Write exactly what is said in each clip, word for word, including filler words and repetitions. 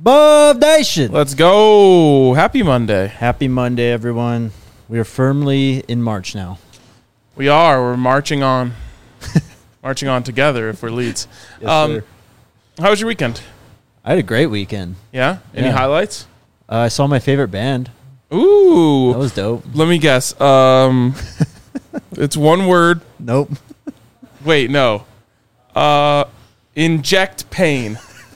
Bub Nation. Let's go. Happy Monday. Happy Monday, everyone. We are firmly in March now. We are. We're marching on. marching on together if we're Leeds. Yes, um, sir. How was your weekend? I had a great weekend. Yeah? Any Yeah. highlights? Uh, I saw my favorite band. Ooh. That was dope. Let me guess. Um, it's one word. Nope. Wait, no. Uh, inject pain.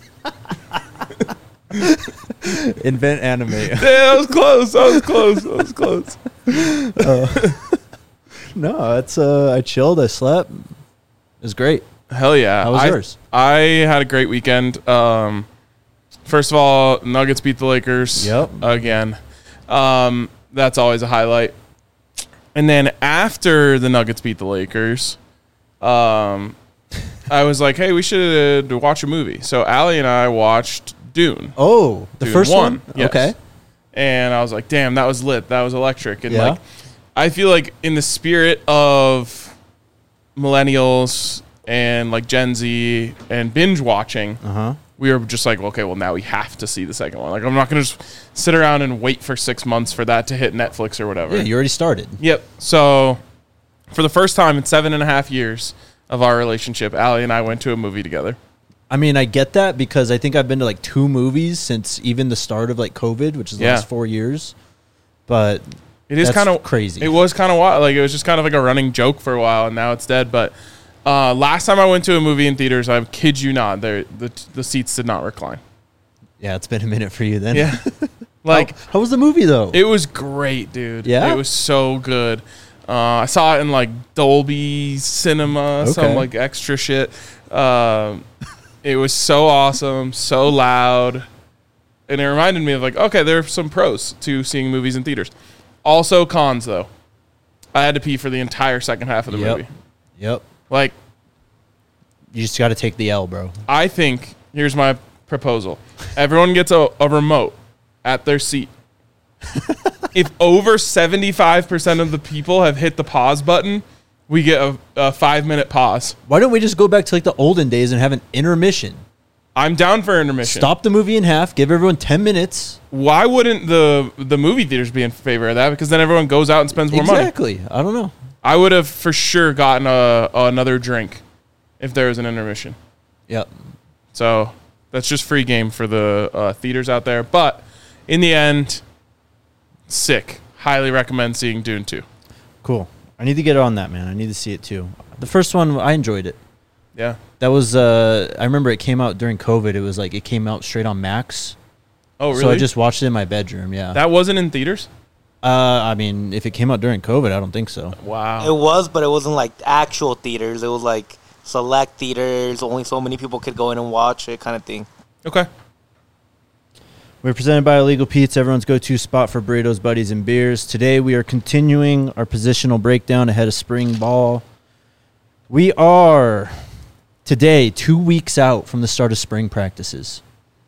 Invent animate. Yeah, that was close. That was close. That was close. uh, no, it's uh, I chilled. I slept. It was great. Hell yeah. How was I, yours? I had a great weekend. Um, first of all, Nuggets beat the Lakers. Yep. Again. Um, that's always a highlight. And then after the Nuggets beat the Lakers, um, I was like, hey, we should watch a movie. So Allie and I watched Dune. Oh, the Dune first one. one? Yes. Okay. And I was like, damn, that was lit. That was electric. And Yeah. like, I feel like in the spirit of millennials and like Gen Z and binge watching, Uh-huh. we were just like, okay, well, now we have to see the second one. Like, I'm not going to just sit around and wait for six months for that to hit Netflix or whatever. Yeah, you already started. Yep. So for the first time in seven and a half years of our relationship, Allie and I went to a movie together. I mean, I get that because I think I've been to like two movies since even the start of like COVID, which is the Yeah. last four years. But It is that's kind of crazy. It was kind of wild. Like, it was just kind of like a running joke for a while, and now it's dead. But uh, last time I went to a movie in theaters, I kid you not, the the seats did not recline. Yeah, it's been a minute for you then. Yeah. Like, how, how was the movie though? it was great, dude. Yeah? It was so good. Uh, I saw it in like Dolby Cinema, some Okay. like extra shit. Um, it was so awesome, so loud. And it reminded me of like, okay, there are some pros to seeing movies in theaters. Also cons though. I had to pee for the entire second half of the Yep. movie. Yep. Like, You just got to take the L, bro. I think, here's my proposal. Everyone gets a, a remote at their seat. If over seventy-five percent of the people have hit the pause button, we get a, a five-minute pause. Why don't we just go back to like the olden days and have an intermission? I'm down for intermission. Stop the movie in half. Give everyone ten minutes. Why wouldn't the the movie theaters be in favor of that? Because then everyone goes out and spends more money. Exactly. I don't know. I would have for sure gotten a, another drink if there was an intermission. Yep. So that's just free game for the uh, theaters out there. But in the end, sick. Highly recommend seeing Dune two. Cool. I need to get on that, man. I need to see it too. The first one, I enjoyed it. Yeah. That was, uh, I remember it came out during COVID. It was like, it came out straight on Max. Oh, really? So I just watched it in my bedroom, yeah. That wasn't in theaters? Uh, I mean, if it came out during COVID, I don't think so. Wow. It was, but it wasn't like actual theaters. It was like select theaters. Only so many people could go in and watch it, kind of thing. Okay. We're presented by Illegal Pete's, everyone's go-to spot for burritos, buddies, and beers. Today we are continuing our positional breakdown ahead of spring ball. We are today two weeks out from the start of spring practices.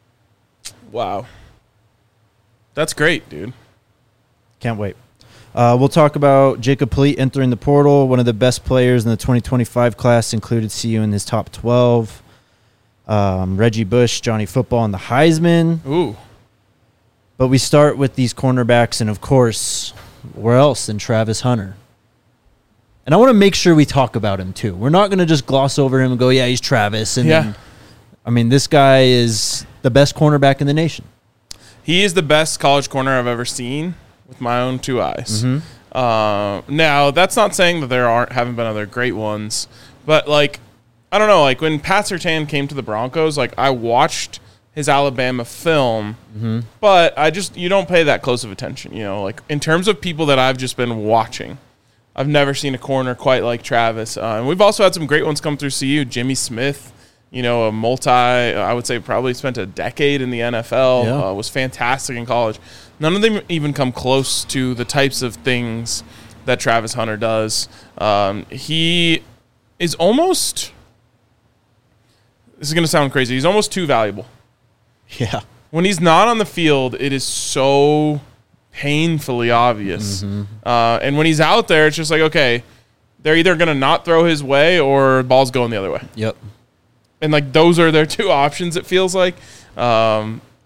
Wow. That's great, dude. Can't wait. Uh, we'll talk about Jacob Polite entering the portal. One of the best players in the twenty twenty-five class, included C U in his top twelve. Um, Reggie Bush, Johnny Football, and the Heisman. Ooh. But we start with these cornerbacks, and of course, where else than Travis Hunter? And I want to make sure we talk about him too. We're not going to just gloss over him and go, yeah, he's Travis. And Yeah. then, I mean, this guy is the best cornerback in the nation. He is the best college corner I've ever seen with my own two eyes. Mhm. Uh, now, that's not saying that there aren't haven't been other great ones, but like, I don't know, like when Pat Surtain came to the Broncos, like I watched his Alabama film, Mm-hmm. but I just, you don't pay that close of attention, you know, like in terms of people that I've just been watching, I've never seen a corner quite like Travis. Uh, and we've also had some great ones come through C U. Jimmy Smith, you know, a multi, I would say probably spent a decade in the N F L, Yeah. uh, was fantastic in college. None of them even come close to the types of things that Travis Hunter does. Um, he is almost, this is going to sound crazy, he's almost too valuable. Yeah. When he's not on the field, it is so painfully obvious. Mm-hmm. Uh, and when he's out there, it's just like, okay, they're either going to not throw his way or the ball's going the other way. Yep. And, like, those are their two options, it feels like. Um,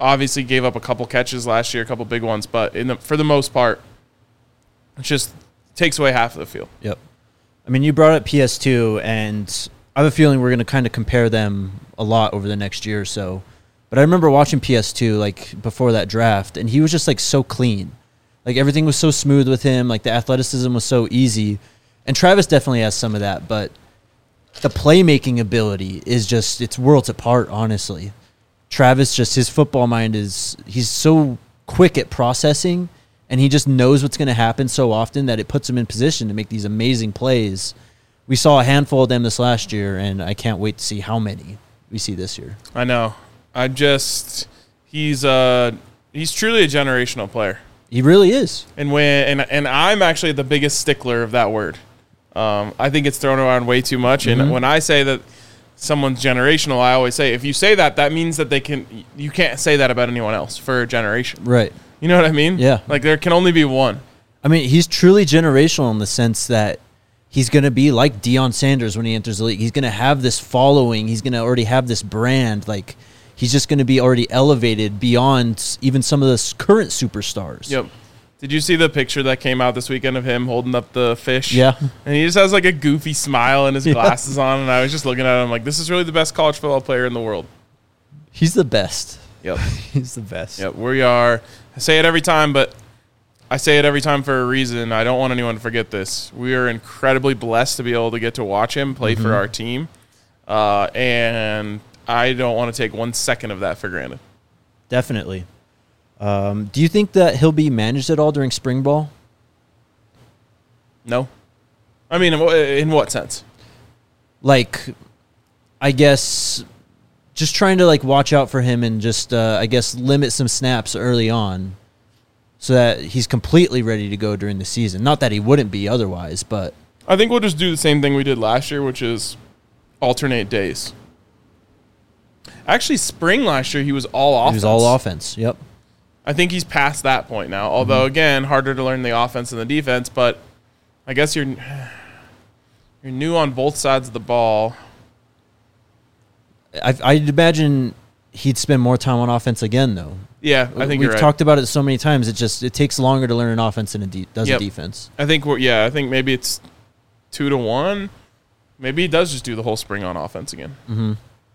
obviously gave up a couple catches last year, a couple big ones, but in the, for the most part, it just takes away half of the field. Yep. I mean, you brought up P S two, and I have a feeling we're going to kind of compare them a lot over the next year or so. But I remember watching P S two, like, before that draft, and he was just, like, so clean. Like, everything was so smooth with him. Like, the athleticism was so easy. And Travis definitely has some of that, but the playmaking ability is just, it's worlds apart, honestly. Travis, just his football mind is, he's so quick at processing, and he just knows what's going to happen so often that it puts him in position to make these amazing plays. We saw a handful of them this last year, and I can't wait to see how many we see this year. I know. I just, he's uh he's truly a generational player. He really is. And when and and I'm actually the biggest stickler of that word. Um, I think it's thrown around way too much. Mm-hmm. And when I say that someone's generational, I always say, if you say that, that means that they can. You can't say that about anyone else for a generation. Right. You know what I mean? Yeah. Like, there can only be one. I mean, he's truly generational in the sense that he's going to be like Deion Sanders when he enters the league. He's going to have this following. He's going to already have this brand. Like, he's just going to be already elevated beyond even some of the current superstars. Yep. Did you see the picture that came out this weekend of him holding up the fish? Yeah. And he just has like a goofy smile and his glasses on. And I was just looking at him like, this is really the best college football player in the world. He's the best. Yep. He's the best. Yep. We are. I say it every time, but I say it every time for a reason. I don't want anyone to forget this. We are incredibly blessed to be able to get to watch him play mm-hmm. for our team. Uh, and I don't want to take one second of that for granted. Definitely. Um, do you think that he'll be managed at all during spring ball? No. I mean, in what sense? Like, I guess just trying to, like, watch out for him and just, uh, I guess, limit some snaps early on so that he's completely ready to go during the season. Not that he wouldn't be otherwise, but... I think we'll just do the same thing we did last year, which is alternate days. Actually, spring last year, he was all offense. He was all offense, yep. I think he's past that point now. Although, mm-hmm. again, harder to learn the offense and the defense, but I guess you're you're new on both sides of the ball. I, I'd imagine he'd spend more time on offense again, though. Yeah, I think We've you're right. talked about it so many times. It just it takes longer to learn an offense than it de- does yep. a defense. I think we're yeah. I think maybe it's two to one. Maybe he does just do the whole spring on offense again. Mm-hmm.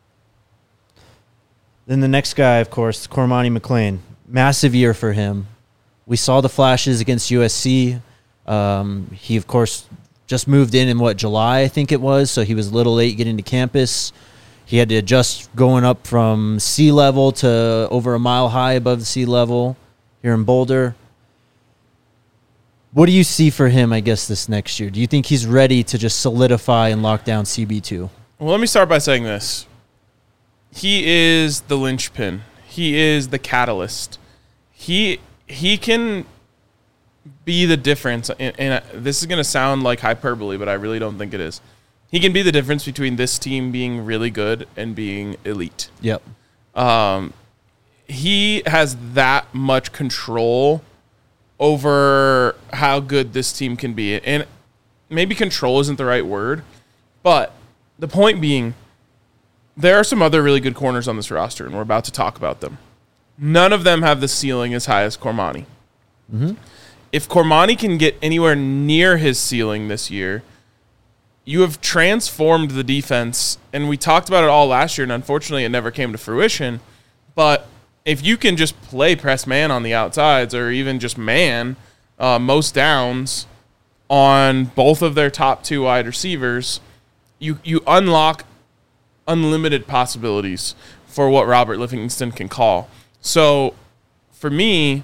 Then the next guy, of course, Cormani McClain. Massive year for him. We saw the flashes against U S C. Um, he, of course, just moved in in, what, July, I think it was, so he was a little late getting to campus. He had to adjust going up from sea level to over a mile high above the sea level here in Boulder. What do you see for him, I guess, this next year? Do you think he's ready to just solidify and lock down C B two? Well, let me start by saying this. He is the linchpin. He is the catalyst. He he can be the difference. And, and this is going to sound like hyperbole, but I really don't think it is. He can be the difference between this team being really good and being elite. Yep. Um, he has that much control over how good this team can be. And maybe control isn't the right word, but the point being, there are some other really good corners on this roster, and we're about to talk about them. None of them have the ceiling as high as Cormani. Mm-hmm. If Cormani can get anywhere near his ceiling this year, you have transformed the defense, and we talked about it all last year, and unfortunately it never came to fruition. But if you can just play press man on the outsides or even just man uh, most downs on both of their top two wide receivers, you you unlock unlimited possibilities for what Robert Livingston can call. So, for me,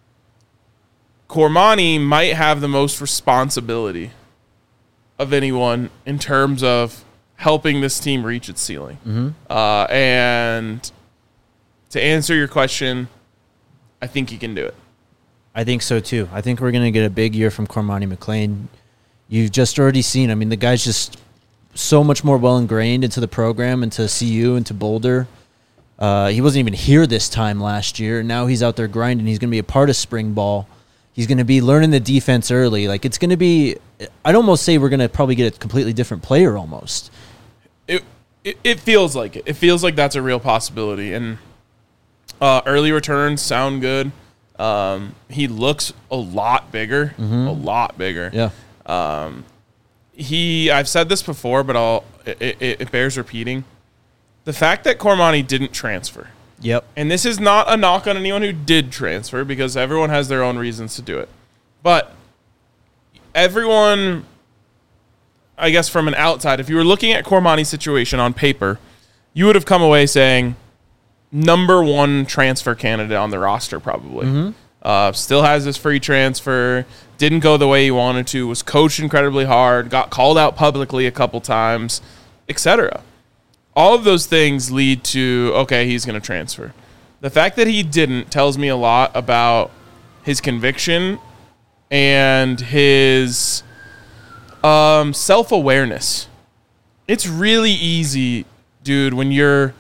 Cormani might have the most responsibility of anyone in terms of helping this team reach its ceiling. Mm-hmm. Uh, and to answer your question, I think he can do it. I think so, too. I think we're going to get a big year from Cormani McClain. You've just already seen, I mean, the guy's just so much more well ingrained into the program, into C U, into Boulder. Uh, he wasn't even here this time last year. Now he's out there grinding. He's going to be a part of spring ball. He's going to be learning the defense early. Like, it's going to be, I'd almost say we're going to probably get a completely different player almost. It, it it feels like it. It feels like that's a real possibility. And Uh, early returns sound good. Um, he looks a lot bigger, Mm-hmm. a lot bigger. Yeah. Um, he, I've said this before, but I'll, it, it, it bears repeating. The fact that Cormani didn't transfer, Yep. and this is not a knock on anyone who did transfer because everyone has their own reasons to do it. But everyone, I guess from an outside, if you were looking at Cormani's situation on paper, you would have come away saying number one transfer candidate on the roster probably. Mm-hmm. Uh, still has his free transfer, didn't go the way he wanted to, was coached incredibly hard, got called out publicly a couple times, et cetera. All of those things lead to, okay, he's going to transfer. The fact that he didn't tells me a lot about his conviction and his um, self-awareness. It's really easy, dude, when you're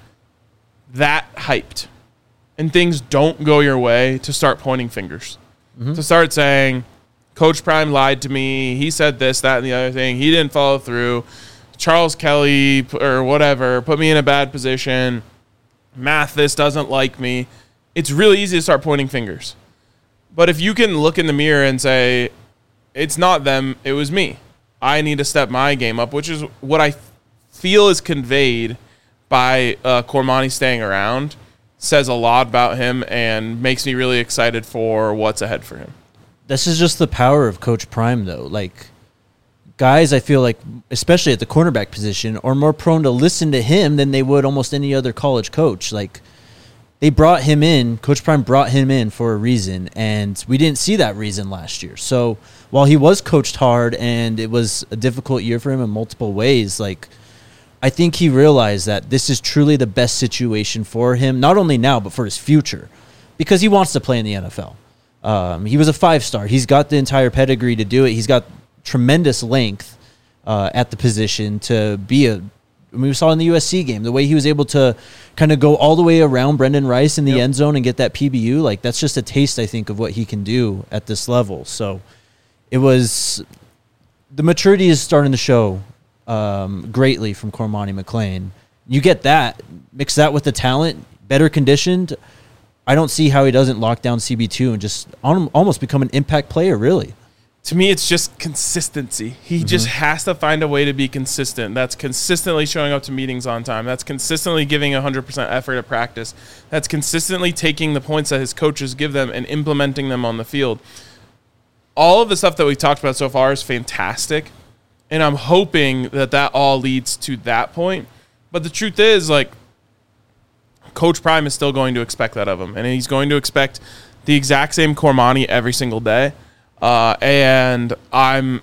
that hyped and things don't go your way to start pointing fingers. Mm-hmm. To start saying, Coach Prime lied to me. He said this, that, and the other thing. He didn't follow through. Charles Kelly or whatever put me in a bad position. Mathis doesn't like me. It's really easy to start pointing fingers. But if you can look in the mirror and say, it's not them, it was me. I need to step my game up, which is what I feel is conveyed by uh, Cormani staying around, says a lot about him and makes me really excited for what's ahead for him. This is just the power of Coach Prime, though. Like, guys, I feel like, especially at the cornerback position, are more prone to listen to him than they would almost any other college coach. Like, they brought him in, Coach Prime brought him in for a reason, and we didn't see that reason last year. So while he was coached hard and it was a difficult year for him in multiple ways, like, I think he realized that this is truly the best situation for him, not only now, but for his future, because he wants to play in the N F L. Um, he was a five-star. He's got the entire pedigree to do it. He's got tremendous length uh, at the position to be a, I mean, we saw in the U S C game, the way he was able to kind of go all the way around Brendan Rice in the Yep. end zone and get that P B U. Like, that's just a taste, I think, of what he can do at this level. So it was, the maturity is starting to show um, greatly from Cormani McClain. You get that, mix that with the talent, better conditioned. I don't see how he doesn't lock down C B two and just on, almost become an impact player, really. To me, it's just consistency. He mm-hmm. just has to find a way to be consistent. That's consistently showing up to meetings on time. That's consistently giving one hundred percent effort at practice. That's consistently taking the points that his coaches give them and implementing them on the field. All of the stuff that we talked about so far is fantastic, and I'm hoping that that all leads to that point. But the truth is, like, Coach Prime is still going to expect that of him, and he's going to expect the exact same Cormani every single day. Uh, and I'm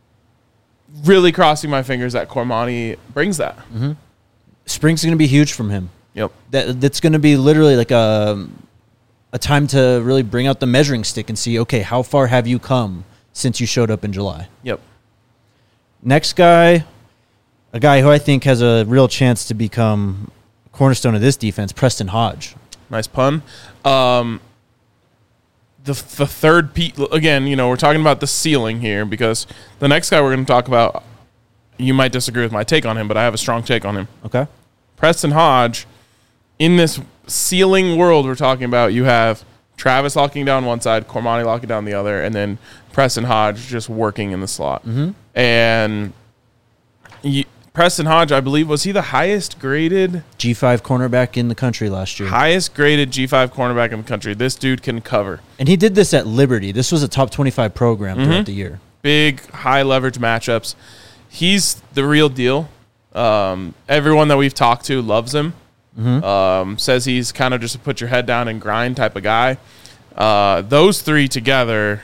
really crossing my fingers that Cormani brings that. Mm-hmm. Spring's going to be huge from him. Yep. That that's going to be literally like a a time to really bring out the measuring stick and see, okay, how far have you come since you showed up in July? Yep. Next guy, a guy who I think has a real chance to become a cornerstone of this defense, Preston Hodge. Nice pun. Um, The, the third pe- again, you know, we're talking about the ceiling here because the next guy we're going to talk about, you might disagree with my take on him, but I have a strong take on him. Okay. Preston Hodge, in this ceiling world we're talking about, you have Travis locking down one side, Cormani locking down the other, and then Preston Hodge just working in the slot. Mm-hmm. And you, Preston Hodge, I believe, was he the highest graded G five cornerback in the country last year? Highest graded G five cornerback in the country. This dude can cover. And he did this at Liberty. This was a top twenty-five program Mm-hmm. throughout the year. Big, high leverage matchups. He's the real deal. Um, everyone that we've talked to loves him. Mm-hmm. Um, says he's kind of just a put your head down and grind type of guy. Uh, those three together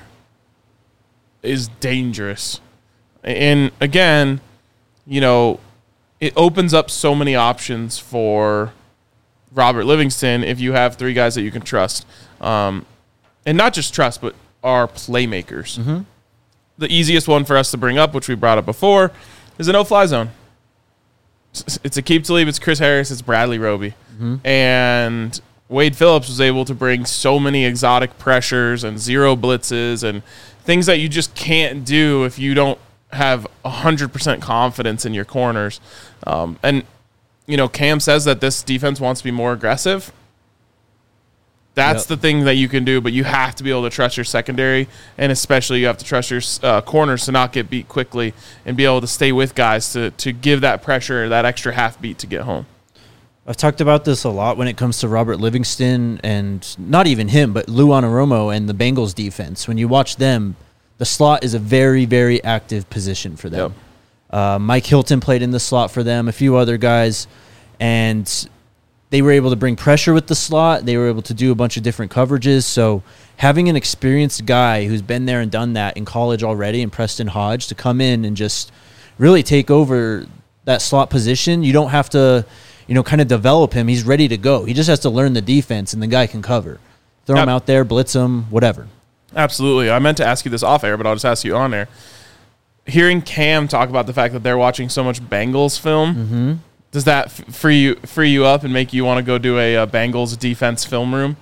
is dangerous. And again, you know, it opens up so many options for Robert Livingston if you have three guys that you can trust. Um, and not just trust, but are playmakers. Mm-hmm. The easiest one for us to bring up, which we brought up before, is a no-fly zone. It's Aqib Talib, it's Chris Harris, it's Bradley Roby. Mm-hmm. And Wade Phillips was able to bring so many exotic pressures and zero blitzes and things that you just can't do if you don't have one hundred percent confidence in your corners. Um, and, you know, Cam says that this defense wants to be more aggressive. That's Yep. the thing that you can do, but you have to be able to trust your secondary, and especially you have to trust your uh, corners to not get beat quickly and be able to stay with guys to, to give that pressure, that extra half beat to get home. I've talked about this a lot when it comes to Robert Livingston and not even him, but Lou Anarumo and the Bengals defense. When you watch them, the slot is a very, very active position for them. Yep. Uh, Mike Hilton played in the slot for them, a few other guys, and they were able to bring pressure with the slot. They were able to do a bunch of different coverages. So having an experienced guy who's been there and done that in college already, and Preston Hodge, to come in and just really take over that slot position, you don't have to, you know, kind of develop him. He's ready to go. He just has to learn the defense, and the guy can cover. Throw Yep. him out there, blitz him, whatever. Absolutely. I meant to ask you this off air, but I'll just ask you on air. Hearing Cam talk about the fact that they're watching so much Bengals film, Mm-hmm. does that f- free you free you up and make you want to go do a, uh Bengals defense film room?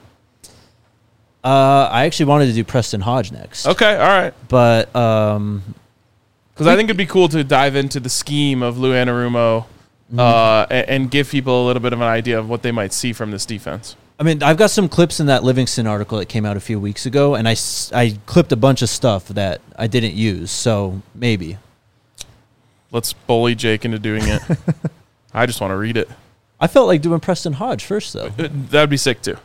Uh, I actually wanted to do Preston Hodge next. Okay, all right. But um, Because I think it'd be cool to dive into the scheme of Lou Anarumo Mm-hmm. uh, and, and give people a little bit of an idea of what they might see from this defense. I mean, I've got some clips in that Livingston article that came out a few weeks ago, and I, s- I clipped a bunch of stuff that I didn't use, so maybe. Let's bully Jake into doing it. I just want to read it. I felt like doing Preston Hodge first, though. Uh, That'd be sick too.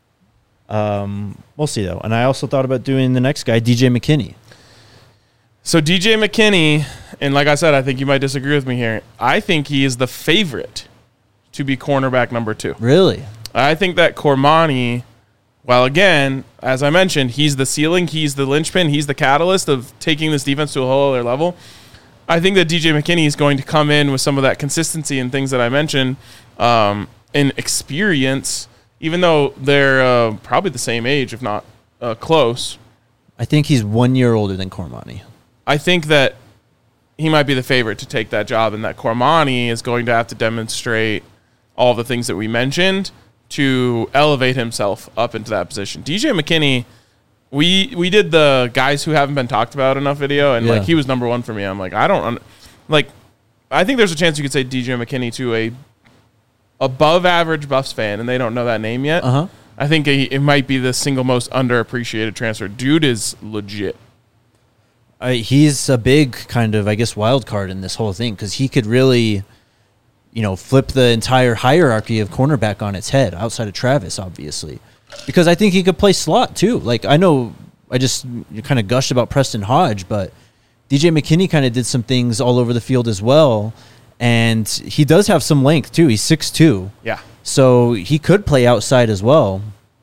Um, we'll see, though. And I also thought about doing the next guy, D J McKinney. So D J McKinney, and like I said, I think you might disagree with me here. I think he is the favorite to be cornerback number two. Really? I think that Cormani, well, again, as I mentioned, he's the ceiling, he's the linchpin, he's the catalyst of taking this defense to a whole other level. I think that D J McKinney is going to come in with some of that consistency and things that I mentioned, um, and experience, even though they're uh, probably the same age, if not uh, close. I think he's one year older than Cormani. I think that he might be the favorite to take that job, and that Cormani is going to have to demonstrate all the things that we mentioned to elevate himself up into that position. D J McKinney, we we did the guys who haven't been talked about enough video, and Yeah. like he was number one for me. I'm like, I don't un- like. I think there's a chance you could say D J McKinney to a above average Buffs fan, and they don't know that name yet. Uh huh. I think it, it might be the single most underappreciated transfer. Dude is legit. I, he's a big kind of, I guess, wild card in this whole thing because he could really, you know, flip the entire hierarchy of cornerback on its head outside of Travis, obviously. Because I think he could play slot too. Like, I know I just kind of gushed about Preston Hodge, but D J McKinney kind of did some things all over the field as well. And he does have some length too. He's six two. Yeah. So he could play outside as well.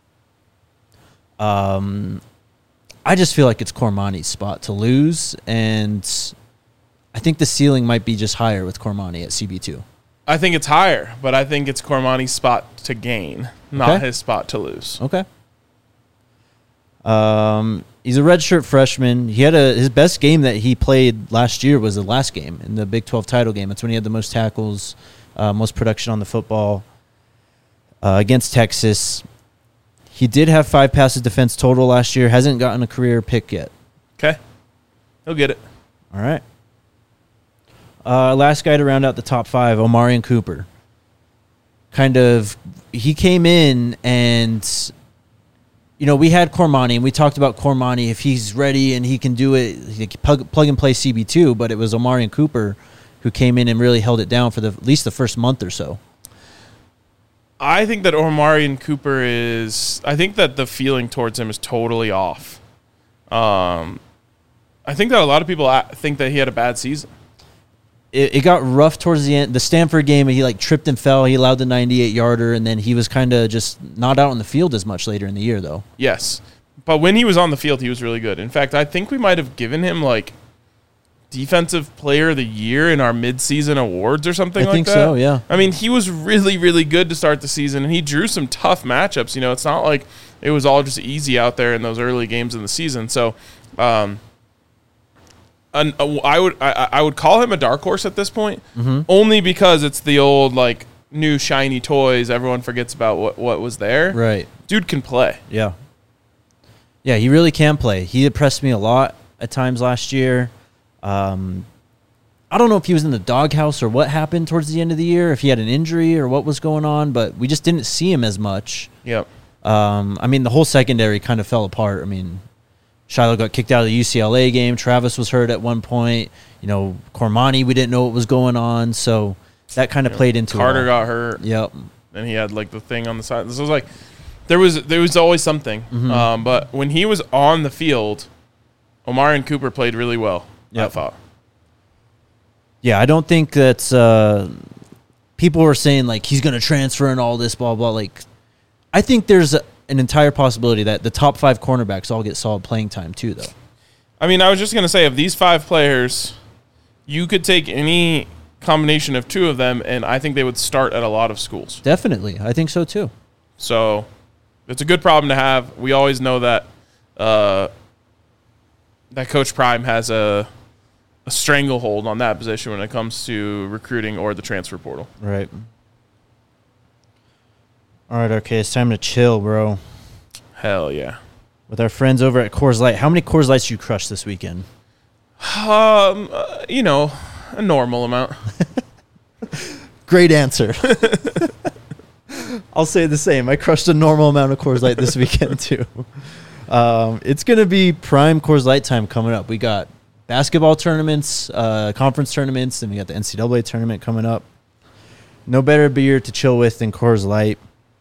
Um, I just feel like it's Cormani's spot to lose, and I think the ceiling might be just higher with Cormani at C B two. I think it's higher, but I think it's Cormani's spot to gain, not Okay. his spot to lose. Okay. Um, he's a redshirt freshman. He had a his best game that he played last year was the last game in the Big twelve title game. That's when he had the most tackles, uh, most production on the football uh, against Texas. He did have five passes defense total last year. Hasn't gotten a career pick yet. Okay. He'll get it. All right. Uh, last guy to round out the top five, Omarion Cooper. Kind of, he came in and, you know, we had Cormani, and we talked about Cormani. If he's ready and he can do it, he can plug, plug and play C B two, but it was Omarion Cooper who came in and really held it down for the at least the first month or so. I think that Omarion Cooper is. I think that the feeling towards him is totally off. Um, I think that a lot of people a- think that he had a bad season. It, it got rough towards the end. The Stanford game, he like tripped and fell. He allowed the ninety-eight yarder, and then he was kind of just not out on the field as much later in the year, though. Yes, but when he was on the field, he was really good. In fact, I think we might have given him like Defensive Player of the Year in our midseason awards or something I like think that. so, yeah. I mean, he was really, really good to start the season, and he drew some tough matchups. You know, it's not like it was all just easy out there in those early games in the season. So, um, an, uh, I would I, I would call him a dark horse at this point, Mm-hmm. only because it's the old like new shiny toys. Everyone forgets about what what was there. Right. Dude can play. Yeah. Yeah, he really can play. He impressed me a lot at times last year. Um, I don't know if he was in the doghouse or what happened towards the end of the year, if he had an injury or what was going on, but we just didn't see him as much. Yep. Um, I mean, the whole secondary kind of fell apart. I mean, Shiloh got kicked out of the U C L A game. Travis was hurt at one point. You know, Cormani, we didn't know what was going on. So that kind of You know, played into Carter it all. got hurt. Yep. And he had like the thing on the side. This was like there was there was always something. Mm-hmm. Um, but when he was on the field, Omarion Cooper played really well. Yep. I thought. Yeah, I don't think that's uh, people were saying like he's going to transfer and all this blah blah. Like, I think there's a, an entire possibility that the top five cornerbacks all get solid playing time too, though. I mean, I was just gonna say of these five players, you could take any combination of two of them, and I think they would start at a lot of schools. Definitely, I think so too. So it's a good problem to have. We always know that uh, that Coach Prime has a a stranglehold on that position when it comes to recruiting or the transfer portal. Right. All right, okay, it's time to chill, bro. Hell yeah. With our friends over at Coors Light. How many Coors Lights you crushed this weekend? Um, uh, you know, a normal amount. Great answer. I'll say the same. I crushed a normal amount of Coors Light this weekend too. Um, it's going to be prime Coors Light time coming up. We got basketball tournaments, uh, conference tournaments, and we got the N C double A tournament coming up. No better beer to chill with than Coors Light.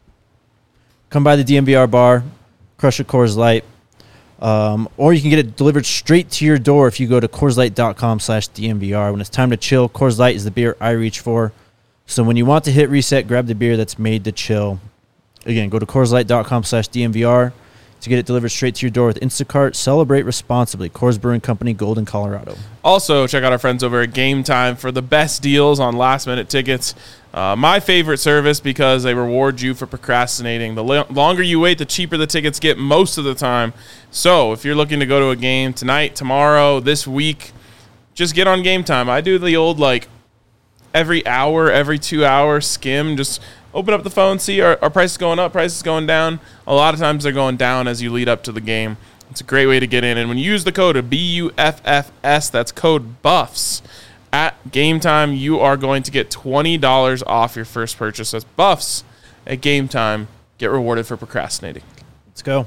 Come by the D M V R bar, crush a Coors Light, um, or you can get it delivered straight to your door if you go to CoorsLight.com slash DMVR. When it's time to chill, Coors Light is the beer I reach for. So when you want to hit reset, grab the beer that's made to chill. Again, go to CoorsLight.com slash DMVR to get it delivered straight to your door with Instacart. Celebrate responsibly. Coors Brewing Company, Golden, Colorado. Also, check out our friends over at Game Time for the best deals on last-minute tickets. Uh, my favorite service because they reward you for procrastinating. The lo- longer you wait, the cheaper the tickets get most of the time. So if you're looking to go to a game tonight, tomorrow, this week, just get on Game Time. I do the old, like, every hour, every two hours skim, just open up the phone, see our, our price is going up, price is going down. A lot of times they're going down as you lead up to the game. It's a great way to get in. And when you use the code B U F F S, that's code BUFFS, at Game Time, you are going to get twenty dollars off your first purchase. That's BUFFS at Game Time. Get rewarded for procrastinating. Let's go.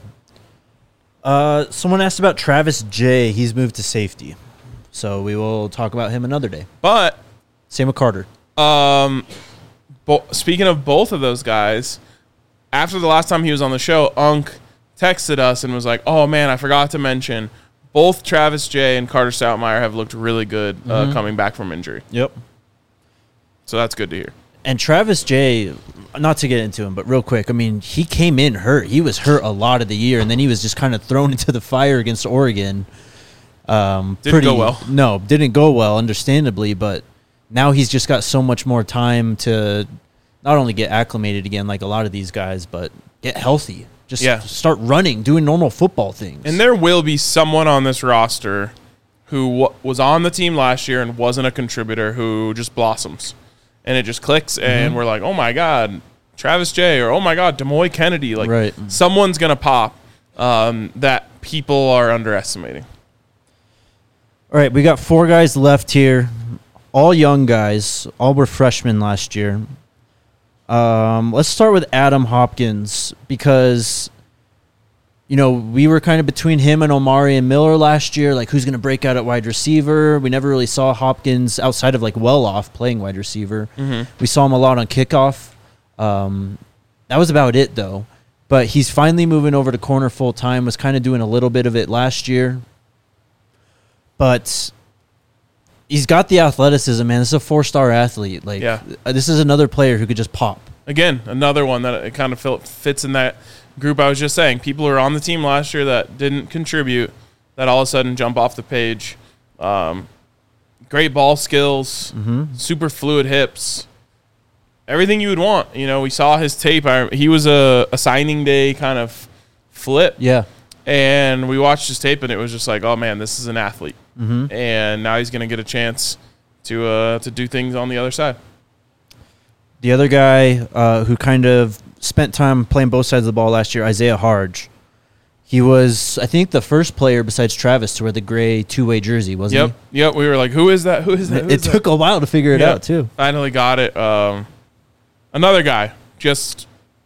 Uh, someone asked about Travis J. He's moved to safety. So we will talk about him another day. But Same with Carter. Um, bo- speaking of both of those guys, after the last time he was on the show, Unk texted us and was like, "Oh man, I forgot to mention both Travis J and Carter Stoutmeyer have looked really good uh, Mhm. coming back from injury." Yep. So that's good to hear. And Travis J, not to get into him, but real quick, I mean, he came in hurt. He was hurt a lot of the year, and then he was just kind of thrown into the fire against Oregon. Um, Didn't go well. No, didn't go well, understandably, but now he's just got so much more time to not only get acclimated again like a lot of these guys, but get healthy. Just Yeah. start running, doing normal football things. And there will be someone on this roster who w- was on the team last year and wasn't a contributor who just blossoms. And it just clicks, and Mhm. we're like, oh, my God, Travis J, or oh, my God, Demoy Kennedy. Like, Right. someone's going to pop um, that people are underestimating. All right, we got four guys left here, all young guys. All were freshmen last year. Um, let's start with Adam Hopkins because, you know, we were kind of between him and Omari and Miller last year. Like, who's going to break out at wide receiver? We never really saw Hopkins outside of, like, well-off playing wide receiver. Mm-hmm. We saw him a lot on kickoff. Um, that was about it, though. But he's finally moving over to corner full-time, was kind of doing a little bit of it last year. But he's got the athleticism, man. This is a four-star athlete. Like, Yeah. uh, this is another player who could just pop. Again, another one that it kind of fil- fits in that group I was just saying. People who are on the team last year that didn't contribute, that all of a sudden jump off the page. Um, great ball skills, Mm-hmm. super fluid hips, everything you would want. You know, we saw his tape. I, he was a, a signing day kind of flip. Yeah. And we watched his tape, and it was just like, oh, man, this is an athlete. Mm-hmm. And now he's going to get a chance to uh, to do things on the other side. The other guy uh, who kind of spent time playing both sides of the ball last year, Isaiah Harge. He was, I think, the first player besides Travis to wear the gray two-way jersey, wasn't Yep, yep. We were like, who is that? Who is he? that? Who It is that? took a while to figure it Yeah. out, too. Finally got it. Um, another guy, just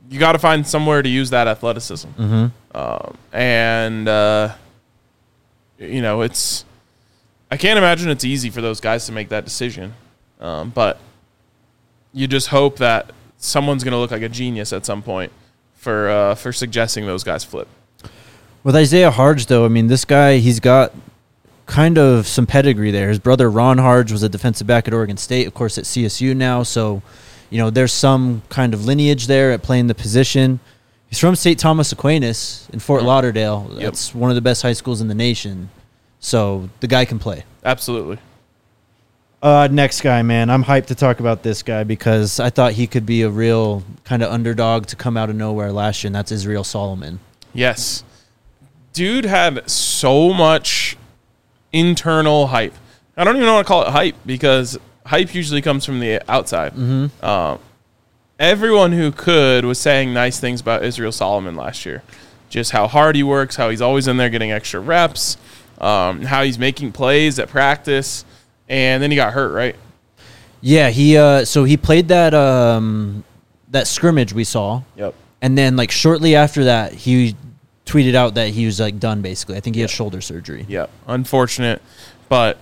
you got to find somewhere to use that athleticism. Mm-hmm. Um, and, uh, you know, it's – I can't imagine it's easy for those guys to make that decision. Um, but you just hope that someone's going to look like a genius at some point for uh, for suggesting those guys flip. With Isaiah Harge, though, I mean, this guy, he's got kind of some pedigree there. His brother Ron Harge was a defensive back at Oregon State, of course, at C S U now. So, you know, there's some kind of lineage there at playing the position. He's from Saint Thomas Aquinas in Fort Lauderdale. Yep. That's one of the best high schools in the nation. So the guy can play. Absolutely. Uh, next guy, man. I'm hyped to talk about this guy because I thought he could be a real kind of underdog to come out of nowhere last year, and that's Israel Solomon. Yes. Dude had so much internal hype. I don't even want to call it hype because hype usually comes from the outside. Mm-hmm. Um, everyone who could was saying nice things about Israel Solomon last year. Just how hard he works, how he's always in there getting extra reps, um, how he's making plays at practice. And then he got hurt, right? Yeah, he uh, so he played that um, that scrimmage we saw. Yep. And then like shortly after that, he tweeted out that he was like done basically. I think he had shoulder surgery. Yep. Unfortunate, but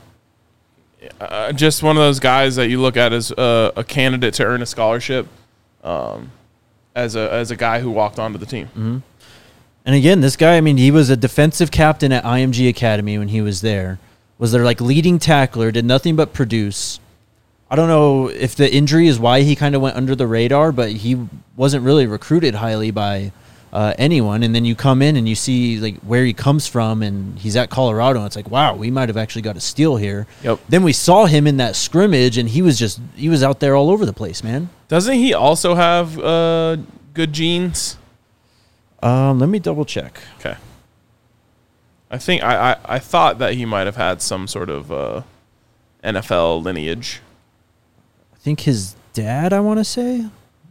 uh, just one of those guys that you look at as a, a candidate to earn a scholarship, um, as a as a guy who walked onto the team. Mm-hmm. And again, this guy, I mean, he was a defensive captain at I M G Academy when he was there. Was their like leading tackler, did nothing but produce. I don't know if the injury is why he kind of went under the radar, but he wasn't really recruited highly by uh, anyone. And then you come in and you see like where he comes from, and he's at Colorado, and it's like, wow, we might have actually got a steal here. Yep. Then we saw him in that scrimmage, and he was just he was out there all over the place, man. Doesn't he also have uh, good genes? Um, let me double check. Okay. I think I, I, I thought that he might have had some sort of uh, N F L lineage. I think his dad, I want to say.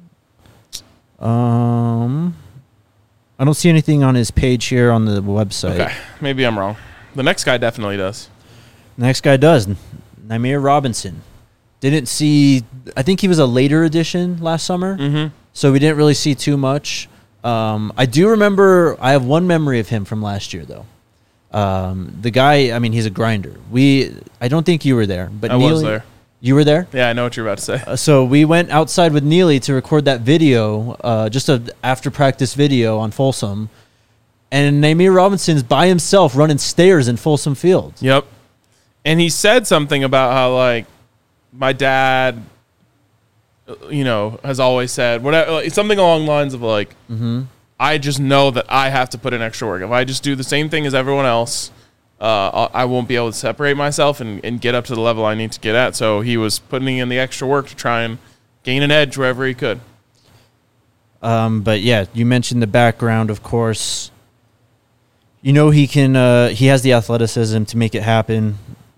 Um, I don't see anything on his page here on the website. Okay, maybe I'm wrong. The next guy definitely does. Next guy does. Namir Robinson. Didn't see, I think he was a later addition last summer, Mm-hmm. so we didn't really see too much. Um, I do remember, I have one memory of him from last year, though. Um, the guy, I mean, he's a grinder. We, I don't think you were there, but I Neely, was there. You were there? Yeah, I know what you're about to say. Uh, so we went outside with Neely to record that video, uh, just a after practice video on Folsom, and Namir Robinson's by himself running stairs in Folsom Field. Yep. And he said something about how, like, my dad, you know, has always said whatever, like, something along the lines of, like, Mm-hmm. I just know that I have to put in extra work. If I just do the same thing as everyone else, uh, I won't be able to separate myself and, and get up to the level I need to get at. So he was putting in the extra work to try and gain an edge wherever he could. Um, but yeah, you mentioned the background, of course. You know he can. Uh, he has the athleticism to make it happen.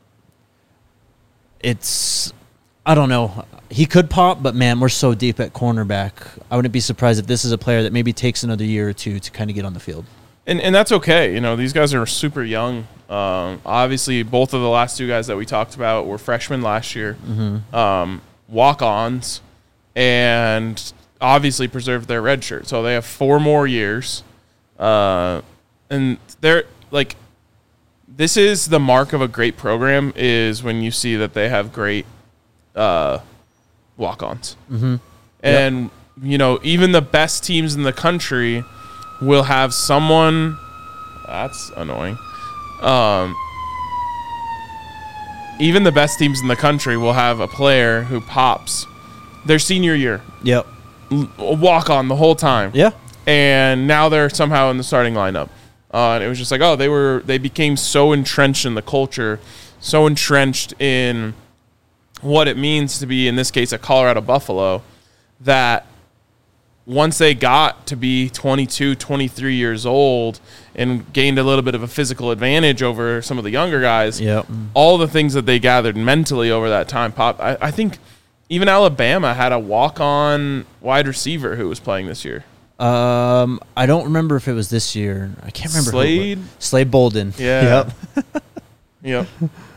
It's, I don't know. He could pop, but man, we're so deep at cornerback. I wouldn't be surprised if this is a player that maybe takes another year or two to kind of get on the field. And and that's okay. You know, these guys are super young. Um, obviously, both of the last two guys that we talked about were freshmen last year, Mm-hmm. um, walk-ons, and obviously preserved their red shirt. So they have four more years. Uh, and they're like, this is the mark of a great program, is when you see that they have great uh, walk-ons. Mm-hmm. And, you know, even the best teams in the country will have someone. That's annoying. Um, even the best teams in the country will have a player who pops their senior year, Yep. l- walk on the whole time, Yeah. and now they're somehow in the starting lineup. Uh, and it was just like, oh, they were they became so entrenched in the culture, so entrenched in what it means to be, in this case, a Colorado Buffalo, that once they got to be twenty-two, twenty-three years old and gained a little bit of a physical advantage over some of the younger guys, Yep. all the things that they gathered mentally over that time pop. I, I think even Alabama had a walk-on wide receiver who was playing this year. Um, I don't remember if it was this year. I can't remember. who it was. Slade? Slade Bolden. Yeah. Yep. Yep.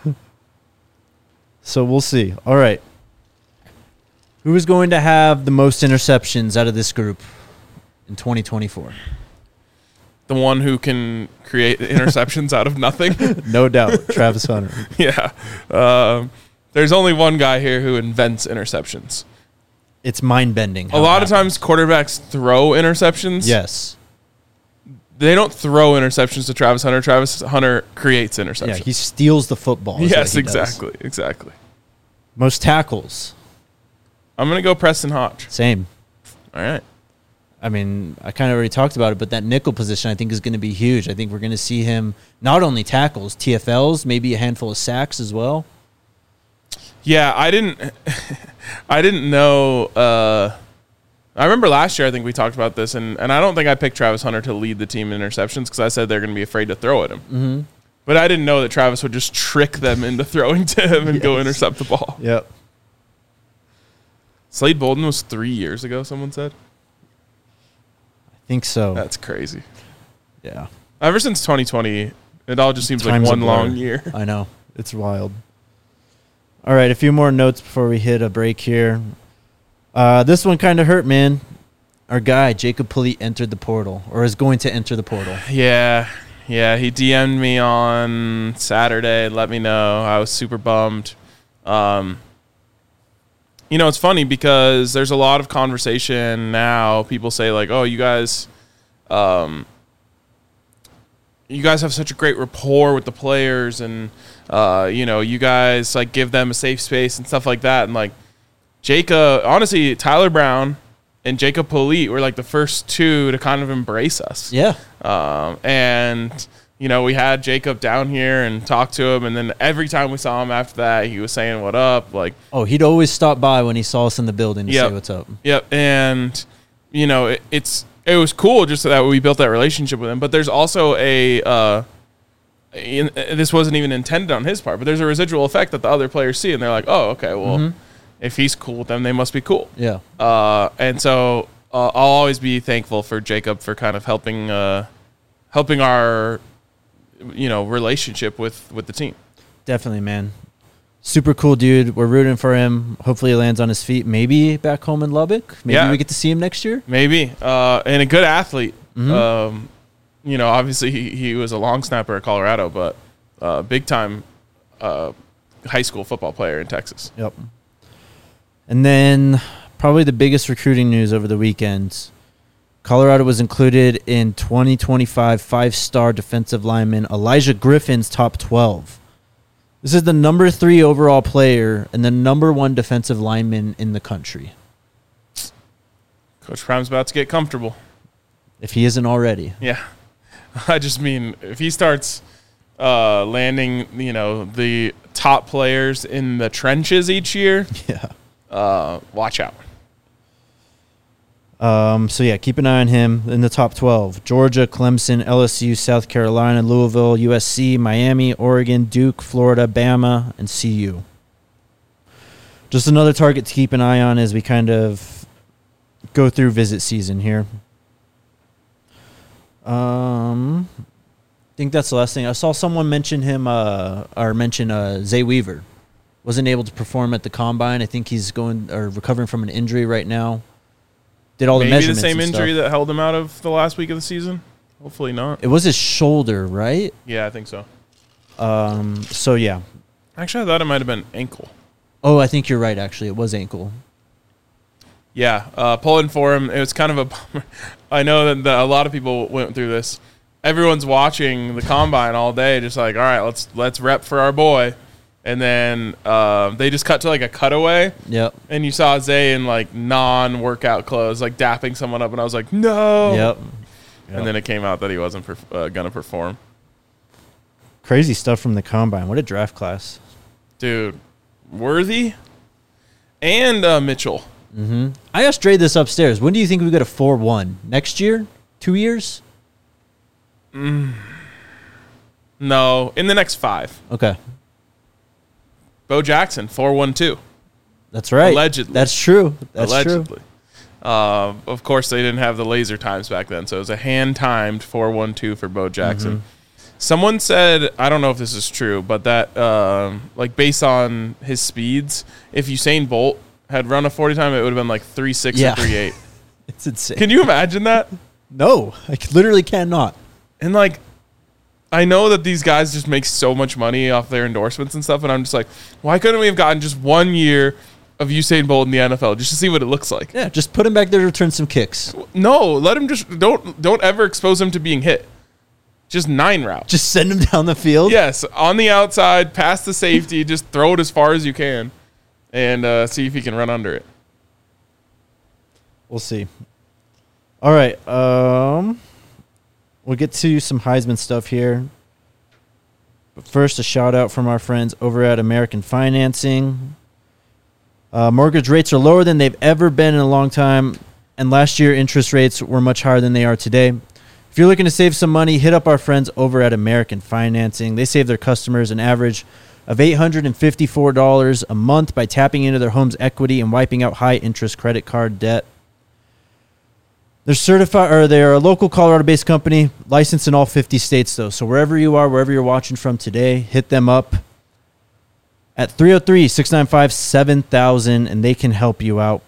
So we'll see. All right. Who is going to have the most interceptions out of this group? in twenty twenty-four? The one who can create interceptions out of nothing. No doubt, Travis Hunter. Yeah. Um, there's only one guy here who invents interceptions. It's mind-bending. A lot of times quarterbacks throw interceptions. Yes. They don't throw interceptions to Travis Hunter. Travis Hunter creates interceptions. Yeah, he steals the football. is Yes, what he does. exactly. Exactly. Most tackles. I'm going to go Preston Hodge. Same. All right. I mean, I kind of already talked about it, but that nickel position I think is going to be huge. I think we're going to see him not only tackles, T F Ls, maybe a handful of sacks as well. Yeah, I didn't I didn't know uh, I remember last year I think we talked about this, and, and I don't think I picked Travis Hunter to lead the team in interceptions because I said they're going to be afraid to throw at him. Mm-hmm. But I didn't know that Travis would just trick them into throwing to him and Yes. go intercept the ball. Yep. Slade Bolden was three years ago, someone said. I think so. That's crazy. Yeah. Ever since twenty twenty, it all just seems like Time's a one blur. long year. I know. It's wild. All right, a few more notes before we hit a break here. Uh, this one kind of hurt, man. Our guy, Jacob Polite, entered the portal, or is going to enter the portal. Yeah, yeah. He D M'd me on Saturday, let me know. I was super bummed. Um, you know, it's funny because there's a lot of conversation now. People say like, "Oh, you guys, um, you guys have such a great rapport with the players, and uh, you know, you guys like give them a safe space and stuff like that." And like, Jacob, honestly, Tyler Brown and Jacob Polite were like the first two to kind of embrace us. Yeah. Um, and, you know, we had Jacob down here and talked to him. And then every time we saw him after that, he was saying, "What up?" Like, Oh, he'd always stop by when he saw us in the building to Yep. say what's up. yep. And, you know, it, it's, it was cool just that we built that relationship with him. But there's also a, uh, in, this wasn't even intended on his part, but there's a residual effect that the other players see. And they're like, "Oh, okay, well, Mhm. if he's cool with them, they must be cool." Yeah. Uh, and so uh, I'll always be thankful for Jacob for kind of helping, uh, helping our, you know, relationship with, with the team. Definitely, man. Super cool dude. We're rooting for him. Hopefully he lands on his feet. Maybe back home in Lubbock. Maybe Yeah. we get to see him next year. Maybe. Uh, and a good athlete. Mhm. Um, you know, obviously he, he was a long snapper at Colorado, but uh, big time uh, high school football player in Texas. Yep. And then probably the biggest recruiting news over the weekend. Colorado was included in twenty twenty-five five-star defensive lineman Elijah Griffin's top twelve. This is the number three overall player and the number one defensive lineman in the country, Coach Prime's about to get comfortable. if he isn't already. Yeah. I just mean, if he starts uh, landing, you know, the top players in the trenches each year, Yeah. uh, watch out. Um, so, yeah, keep an eye on him in the top twelve. Georgia, Clemson, L S U, South Carolina, Louisville, U S C, Miami, Oregon, Duke, Florida, Bama, and C U. Just another target to keep an eye on as we kind of go through visit season here. Um, I think that's the last thing. I saw someone mention him, uh, or mention uh, Zay Weaver. Wasn't able to perform at the combine. I think he's going or recovering from an injury right now. Did all the Maybe the measurements same and injury stuff. that held him out of the last week of the season. Hopefully not. It was his shoulder, right? Yeah, I think so. Um. So yeah. Actually, I thought it might have been ankle. Oh, I think you're right. Actually, it was ankle. Yeah, uh, pulling for him. It was kind of a bummer. I know that the, a lot of people went through this. Everyone's watching the combine all day, just like, all right, let's let's rep for our boy. And then uh, they just cut to like a cutaway, Yep. and you saw Zay in like non-workout clothes, like dapping someone up, and I was like, no. Yep. And then it came out that he wasn't perf- uh, gonna perform. Crazy stuff from the combine. What a draft class. Dude, Worthy and uh, Mitchell. Mm-hmm. I asked Dre this upstairs. When do you think we get a four one? Next year? Two years? No, in the next five. Okay. Bo Jackson, four one two. That's right. Allegedly. That's true. That's true. Allegedly. Uh, of course, they didn't have the laser times back then, so it was a hand-timed four one two for Bo Jackson. Mm-hmm. Someone said, I don't know if this is true, but that, um, like, based on his speeds, if Usain Bolt had run a forty time, it would have been like three six Yeah. or three eight. It's insane. Can you imagine that? No, I c- literally cannot. And like, I know that these guys just make so much money off their endorsements and stuff, and I'm just like, why couldn't we have gotten just one year of Usain Bolt in the N F L just to see what it looks like? Yeah, just put him back there to return some kicks. No, let him just don't don't ever expose him to being hit. Just nine route. Just send him down the field. Yes, on the outside, past the safety, just throw it as far as you can, and uh, see if he can run under it. We'll see. All right. Um, we'll get to some Heisman stuff here. But first, a shout out from our friends over at American Financing. Uh, mortgage rates are lower than they've ever been in a long time, and last year interest rates were much higher than they are today. If you're looking to save some money, hit up our friends over at American Financing. They save their customers an average of eight hundred fifty-four dollars a month by tapping into their home's equity and wiping out high-interest credit card debt. They're certified, or they're a local Colorado-based company, licensed in all fifty states, though. So wherever you are, wherever you're watching from today, hit them up at three oh three, six nine five, seven thousand, and they can help you out.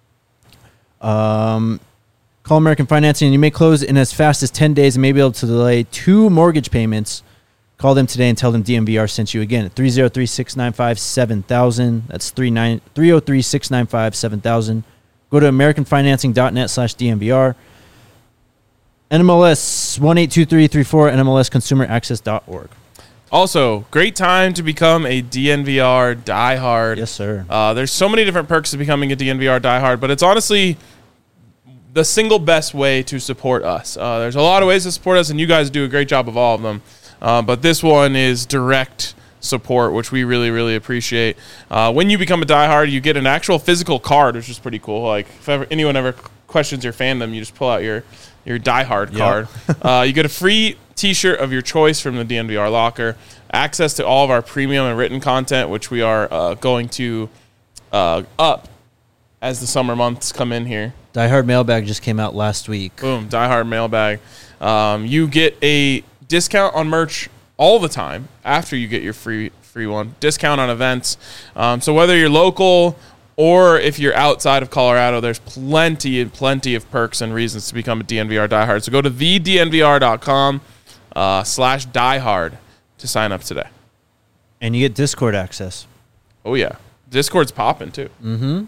Um, call American Financing, and you may close in as fast as ten days and may be able to delay two mortgage payments. Call them today and tell them D M V R sent you again at three oh three, six nine five, seven thousand. That's three oh three, six nine five, seven thousand. Go to americanfinancing.net slash DMVR. N M L S one eight two three three four, N M L S consumer access dot org. Also, great time to become a D N V R diehard. Yes, sir. Uh, there's so many different perks to becoming a D N V R diehard, but it's honestly the single best way to support us. Uh, there's a lot of ways to support us, and you guys do a great job of all of them. Uh, but this one is direct support, which we really, really appreciate. Uh, when you become a diehard, you get an actual physical card, which is pretty cool. Like, if ever, anyone ever questions your fandom, you just pull out your, your diehard Yep. card. uh, you get a free t-shirt of your choice from the D N V R locker, access to all of our premium and written content, which we are uh, going to uh, up as the summer months come in here. Die Hard Mailbag just came out last week. Boom, diehard mailbag. Um, you get a discount on merch all the time after you get your free free one. Discount on events. Um, so whether you're local or if you're outside of Colorado, there's plenty and plenty of perks and reasons to become a D N V R diehard. So go to the D N V R dot com uh, slash diehard to sign up today. And you get Discord access. Oh, yeah. Discord's popping, too. Mm-hmm.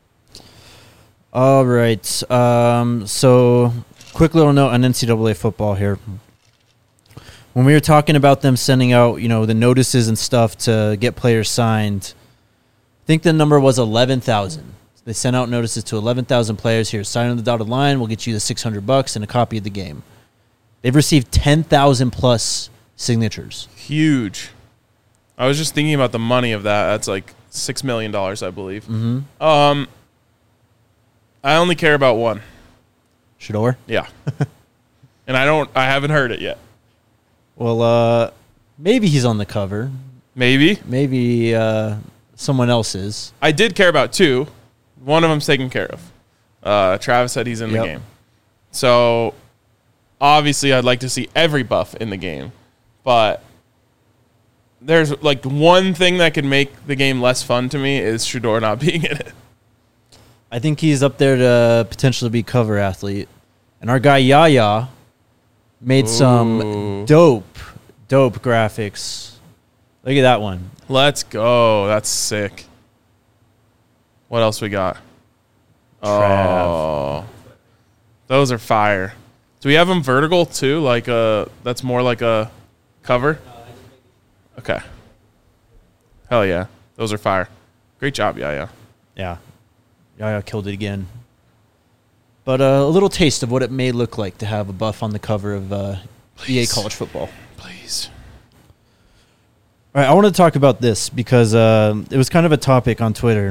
All right. Um, so, quick little note on N C double A football here. When we were talking about them sending out, you know, the notices and stuff to get players signed, I think the number was eleven thousand. They sent out notices to eleven thousand players. Here, sign on the dotted line. We'll get you the six hundred bucks and a copy of the game. They've received ten thousand plus signatures. Huge. I was just thinking about the money of that. That's like six million dollars, I believe. Mm-hmm. Um, I only care about one. Shador? Yeah. And I don't, I haven't heard it yet. Well, uh, maybe he's on the cover. Maybe. Maybe uh, someone else is. I did care about two. One of them's taken care of. Uh, Travis said he's in Yep. the game. So, obviously, I'd like to see every buff in the game. But there's, like, one thing that could make the game less fun to me is Shador not being in it. I think he's up there to potentially be cover athlete. And our guy Yaya made Ooh. some dope, dope graphics. Look at that one. Let's go. That's sick. What else we got? Trav. Oh, those are fire. Do we have them vertical too? Like a that's more like a cover. Okay. Hell yeah, those are fire. Great job, yeah, yeah. Yeah. Yaya killed it again. But uh, a little taste of what it may look like to have a buff on the cover of uh, E A Please. College Football. Please. All right, I want to talk about this because uh, it was kind of a topic on Twitter.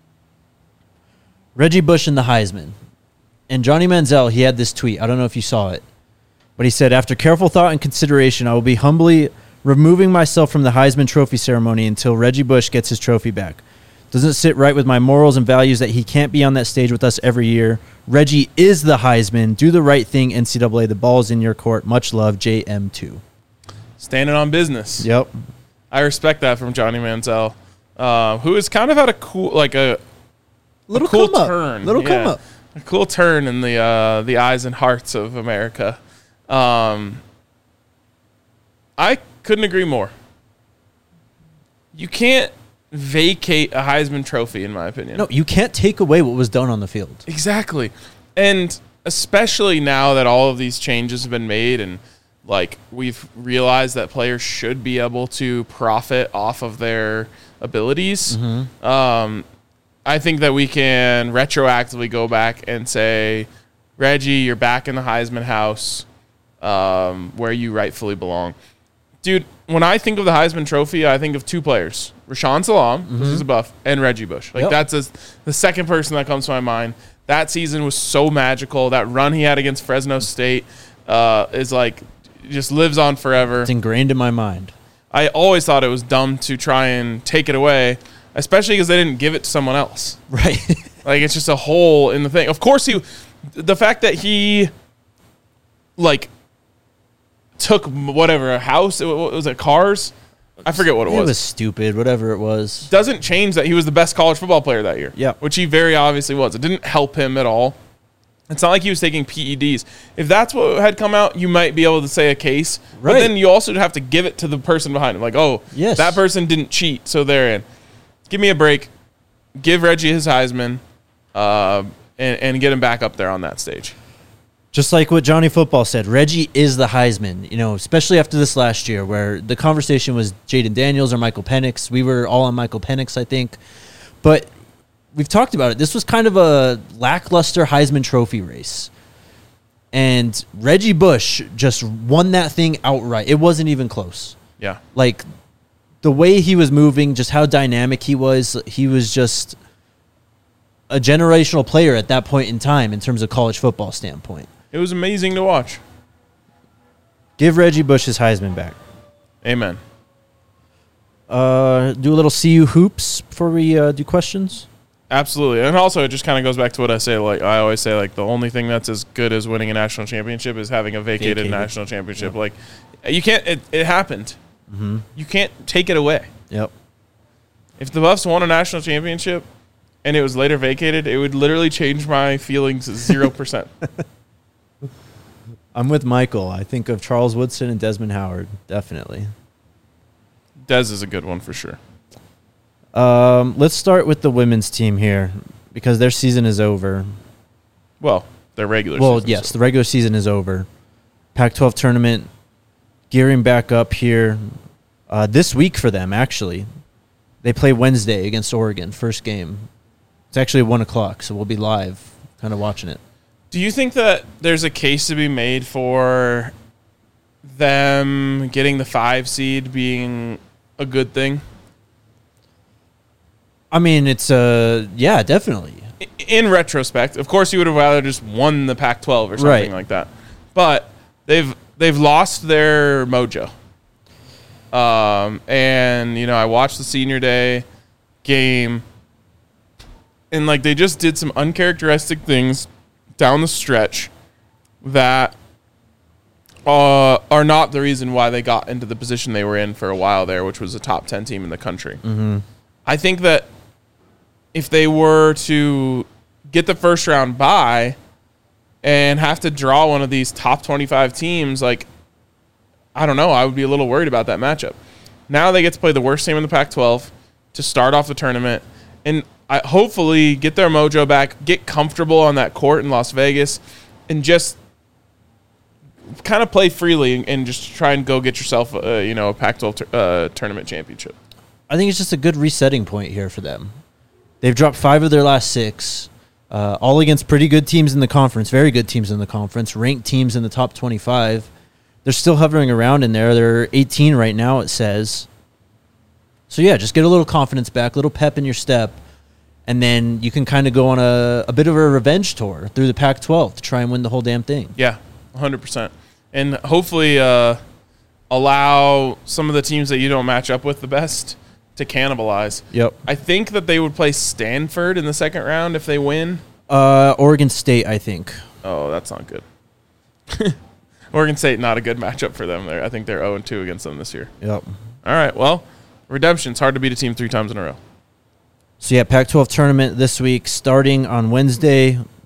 Reggie Bush and the Heisman. And Johnny Manziel, he had this tweet. I don't know if you saw it. But he said, after careful thought and consideration, I will be humbly removing myself from the Heisman Trophy ceremony until Reggie Bush gets his trophy back. Doesn't sit right with my morals and values that he can't be on that stage with us every year. Reggie is the Heisman. Do the right thing, N C double A. The ball's in your court. Much love, J M two. Standing on business. Yep. I respect that from Johnny Manziel, uh, who has kind of had a cool, like a Little a cool come up. turn. Little Yeah. come up. a cool turn in the uh, the eyes and hearts of America. Um, I couldn't agree more. You can't vacate a Heisman Trophy, in my opinion. No, you can't take away what was done on the field. Exactly. And especially now that all of these changes have been made and like we've realized that players should be able to profit off of their abilities. Mm-hmm. Um, I think that we can retroactively go back and say, Reggie, you're back in the Heisman house um, where you rightfully belong. Dude, when I think of the Heisman Trophy, I think of two players, Rashawn Salam, mm-hmm. who's a buff, and Reggie Bush. Like, yep. that's a, the second person that comes to my mind. That season was so magical. That run he had against Fresno State uh, is like, just lives on forever. It's ingrained in my mind. I always thought it was dumb to try and take it away, especially because they didn't give it to someone else. Right. Like, it's just a hole in the thing. Of course, he, the fact that he, like, took whatever, a house, it was it cars? I forget what it, it was. It was stupid, whatever it was. Doesn't change that he was the best college football player that year. Yeah. Which he very obviously was. It didn't help him at all. It's not like he was taking P E Ds. If that's what had come out, you might be able to say a case. Right. But then you also have to give it to the person behind him. Like, oh, yes. that person didn't cheat, so they're in. Give me a break. Give Reggie his Heisman uh, and, and get him back up there on that stage. Just like what Johnny Football said, Reggie is the Heisman, you know, especially after this last year where the conversation was Jaden Daniels or Michael Penix. We were all on Michael Penix, I think. But we've talked about it. This was kind of a lackluster Heisman Trophy race. And Reggie Bush just won that thing outright. It wasn't even close. Yeah. Like, the way he was moving, just how dynamic he was, he was just a generational player at that point in time in terms of college football standpoint. It was amazing to watch. Give Reggie Bush his Heisman back. Amen. Uh, do a little C U hoops before we uh, do questions. Absolutely. And also it just kind of goes back to what I say. Like I always say, like the only thing that's as good as winning a national championship is having a vacated, vacated. national championship. Yep. Like you can't, it, it happened. Mm-hmm. You can't take it away. Yep. If the Buffs won a national championship and it was later vacated, it would literally change my feelings zero percent. I'm with Michael. I think of Charles Woodson and Desmond Howard, definitely. Dez is a good one for sure. Um, let's start with the women's team here because their season is over. Well, their regular well, season. Well, yes, the regular season is over. Pac twelve tournament gearing back up here uh, this week for them, actually. They play Wednesday against Oregon, first game. It's actually one o'clock, so we'll be live kind of watching it. Do you think that there's a case to be made for them getting the five seed being a good thing? I mean, it's uh, yeah, definitely. In retrospect, of course, you would have rather just won the Pac twelve or something right. like that. But they've they've lost their mojo. Um, and you know, I watched the senior day game, and like they just did some uncharacteristic things down the stretch that uh, are not the reason why they got into the position they were in for a while there, which was a top ten team in the country. Mm-hmm. I think that if they were to get the first round bye and have to draw one of these top twenty-five teams, like, I don't know, I would be a little worried about that matchup. Now they get to play the worst team in the Pac twelve to start off the tournament and I hopefully get their mojo back, get comfortable on that court in Las Vegas, and just kind of play freely and, and just try and go get yourself, uh, you know, a Pac twelve t- uh, tournament championship. I think it's just a good resetting point here for them. They've dropped five of their last six, uh, all against pretty good teams in the conference, very good teams in the conference, ranked teams in the top twenty-five. They're still hovering around in there. They're eighteen right now, it says. So, yeah, just get a little confidence back, a little pep in your step, and then you can kind of go on a, a bit of a revenge tour through the Pac twelve to try and win the whole damn thing. Yeah, one hundred percent. And hopefully uh, allow some of the teams that you don't match up with the best to cannibalize. Yep. I think that they would play Stanford in the second round if they win. Uh, Oregon State, I think. Oh, that's not good. Oregon State, not a good matchup for them. There, I think they're oh and two against them this year. Yep. All right, well, redemption. It's hard to beat a team three times in a row. So, yeah, Pac twelve tournament this week starting on Wednesday.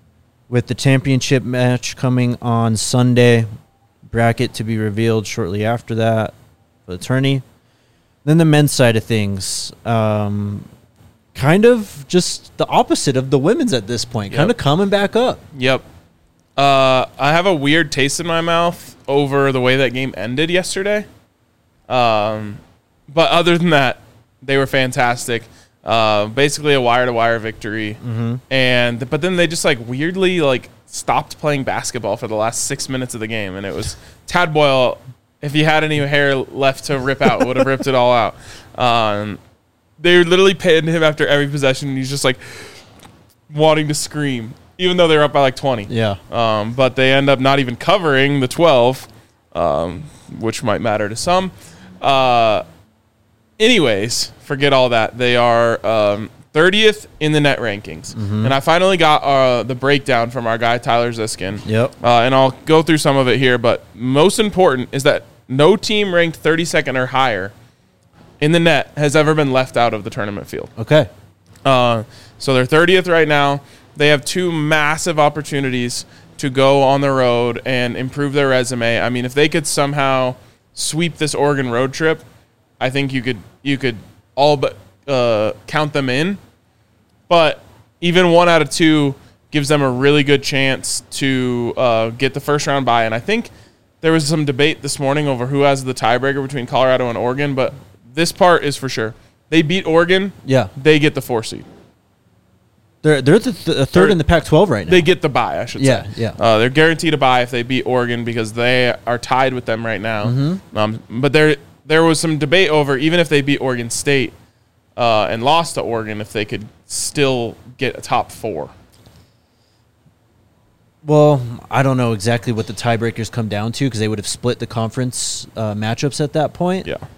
with the championship match coming on Sunday. Bracket to be revealed shortly after that for the tourney. Then the men's side of things, um, kind of just the opposite of the women's at this point, Yep. kind of coming back up. Yep. Uh, I have a weird taste in my mouth over the way that game ended yesterday. Um, but other than that, they were fantastic. Uh, basically a wire-to-wire victory. Mm-hmm. And but then they just like weirdly like stopped playing basketball for the last six minutes of the game, and it was Tad Boyle. If he had any hair left to rip out, would have ripped it all out. Um, they literally pinned him after every possession, and he's just like wanting to scream, even though they were up by like twenty. Yeah. Um, but they end up not even covering the twelve, um, which might matter to some. Uh, anyways, forget all that. They are um, thirtieth in the net rankings. Mm-hmm. And I finally got uh, the breakdown from our guy, Tyler Ziskin. Yep. Uh, and I'll go through some of it here. But most important is that no team ranked thirty-second or higher in the net has ever been left out of the tournament field. Okay. Uh, so they're thirtieth right now. They have two massive opportunities to go on the road and improve their resume. I mean, if they could somehow sweep this Oregon road trip, I think you could you could all but uh, count them in. But even one out of two gives them a really good chance to uh, get the first round bye. And I think there was some debate this morning over who has the tiebreaker between Colorado and Oregon, but this part is for sure. They beat Oregon. Yeah. They get the four seed. They're they're the th- third They're- in the Pac twelve right now. They get the bye, I should Yeah, say. yeah. Uh, they're guaranteed a bye if they beat Oregon because they are tied with them right now. Mm-hmm. Um, but there there was some debate over, even if they beat Oregon State uh, and lost to Oregon, if they could still get a top four. Well, I don't know exactly what the tiebreakers come down to because they would have split the conference uh, matchups at that point. Yeah.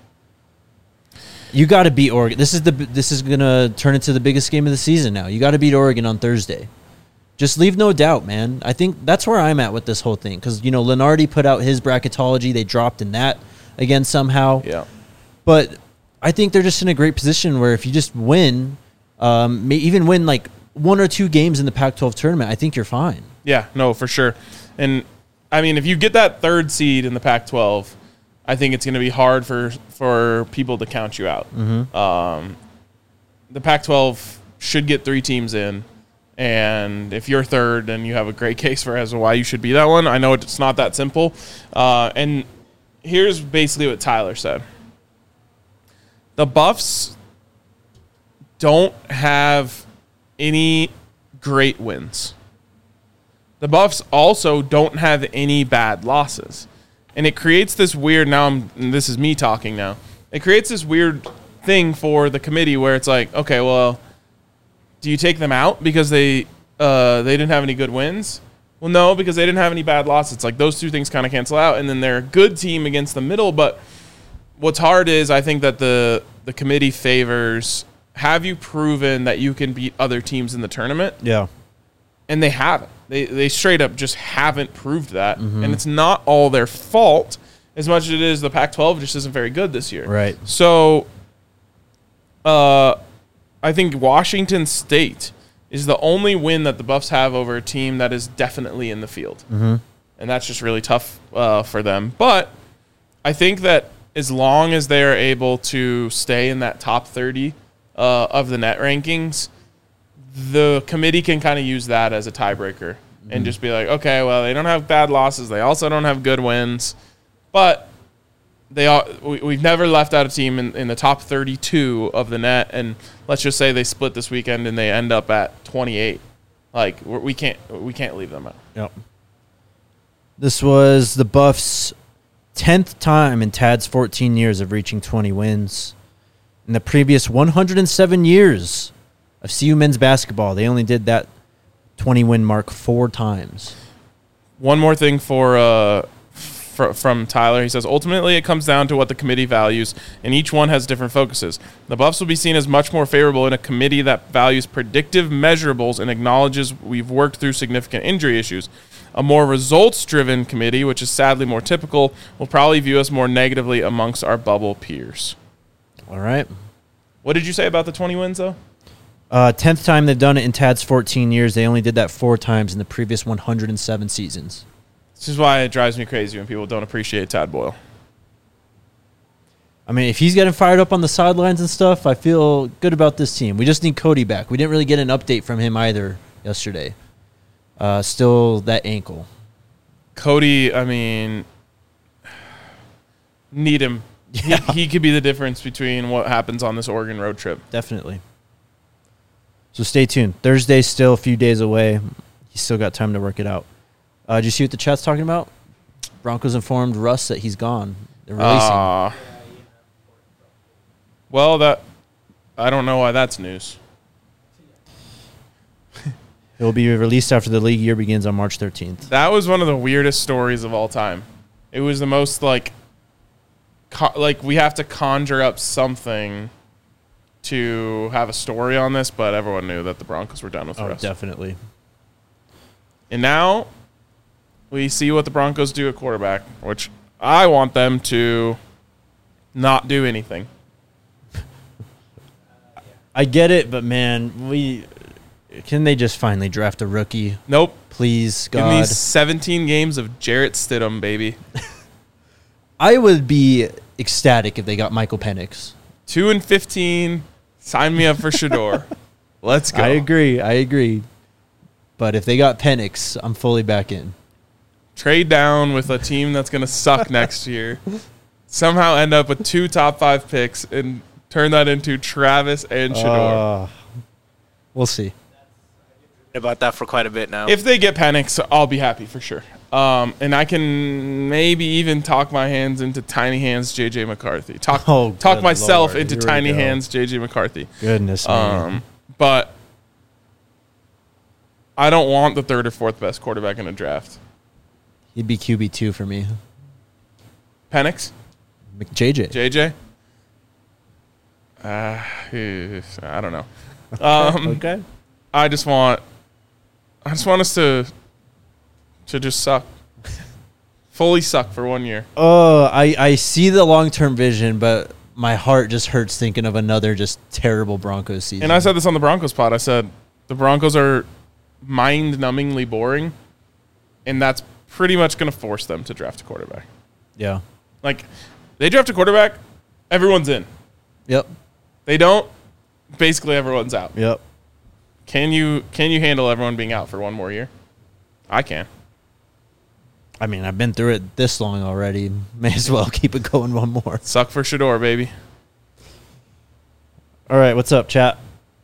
You got to beat Oregon. This is the this is gonna turn into the biggest game of the season now. You got to beat Oregon on Thursday. Just leave no doubt, man. I think that's where I'm at with this whole thing because you know Lenardi put out his bracketology. They dropped in that again somehow. Yeah. But I think they're just in a great position where if you just win, um, may even win like one or two games in the Pac twelve tournament, I think you're fine. Yeah, no, for sure. And, I mean, if you get that third seed in the Pac twelve, I think it's going to be hard for, for people to count you out. Mm-hmm. Um, the Pac twelve should get three teams in, and if you're third, then you have a great case for as to why you should be that one. I know it's not that simple. Uh, and here's basically what Tyler said. The Buffs don't have any great wins. The Buffs also don't have any bad losses. And it creates this weird, now I'm, and this is me talking now, it creates this weird thing for the committee where it's like, okay, well, do you take them out because they uh, they didn't have any good wins? Well, no, because they didn't have any bad losses. It's like those two things kind of cancel out, and then they're a good team against the middle. But what's hard is I think that the, the committee favors, have you proven that you can beat other teams in the tournament? Yeah. And they haven't. They they straight up just haven't proved that. Mm-hmm. And it's not all their fault as much as it is the Pac twelve just isn't very good this year. Right. So uh, I think Washington State is the only win that the Buffs have over a team that is definitely in the field. Mm-hmm. And that's just really tough uh, for them. But I think that as long as they are able to stay in that top thirty uh, of the net rankings, the committee can kind of use that as a tiebreaker mm-hmm. and just be like, okay, well, they don't have bad losses. They also don't have good wins. But they are, we, we've never left out a team in, in the top thirty-two of the net. And let's just say they split this weekend and they end up at twenty-eight. Like, we're, we can't we can't leave them out. Yep. This was the Buffs' tenth time in Tad's fourteen years of reaching twenty wins. In the previous one hundred seven years of C U men's basketball, they only did that twenty-win mark four times. One more thing for, uh, for from Tyler. He says, ultimately, it comes down to what the committee values, and each one has different focuses. The Buffs will be seen as much more favorable in a committee that values predictive measurables and acknowledges we've worked through significant injury issues. A more results-driven committee, which is sadly more typical, will probably view us more negatively amongst our bubble peers. All right. What did you say about the twenty wins, though? Uh, tenth time they've done it in Tad's fourteen years. They only did that four times in the previous one hundred seven seasons. This is why it drives me crazy when people don't appreciate Tad Boyle. I mean, if he's getting fired up on the sidelines and stuff, I feel good about this team. We just need Cody back. We didn't really get an update from him either yesterday. Uh, still that ankle. Cody, I mean, need him. Yeah. He, he could be the difference between what happens on this Oregon road trip. Definitely. So stay tuned. Thursday's still a few days away. He's still got time to work it out. Uh, did you see what the chat's talking about? Broncos informed Russ that he's gone. They're releasing. Uh, well, that I don't know why that's news. He'll be released after the league year begins on March thirteenth. That was one of the weirdest stories of all time. It was the most like, co- like we have to conjure up something to have a story on this, but everyone knew that the Broncos were done with Oh, Russ. definitely. And now we see what the Broncos do at quarterback, which I want them to not do anything. I get it, but man, we can they just finally draft a rookie? Nope. Please, Give me God. seventeen games of Jarrett Stidham, baby. I would be ecstatic if they got Michael Penix. Two and fifteen. Sign me up for Shador. Let's go. I agree. I agree. But if they got Penix, I'm fully back in. Trade down with a team that's going to suck next year. Somehow end up with two top five picks and turn that into Travis and Shador. Uh, we'll see. About that for quite a bit now. If they get Penix, I'll be happy for sure. Um, and I can maybe even talk my hands into Tiny Hands J J McCarthy. Talk Oh, talk good myself Lord. into Here we Tiny go. Hands J J McCarthy. Goodness, man. Um, but I don't want the third or fourth best quarterback in a draft. He'd be Q B two for me. Penix? J J. J J? Uh, I don't know. Um, Okay. I just want, I just want us to, to just suck, fully suck for one year. Oh, I, I see the long-term vision, but my heart just hurts thinking of another just terrible Broncos season. And I said this on the Broncos pod. I said the Broncos are mind-numbingly boring, and that's pretty much going to force them to draft a quarterback. Yeah. Like, they draft a quarterback, everyone's in. Yep. They don't, basically everyone's out. Yep. Can you can you handle everyone being out for one more year? I can. I mean, I've been through it this long already. May as well keep it going one more. Suck for Shador, baby. All right, what's up, chat?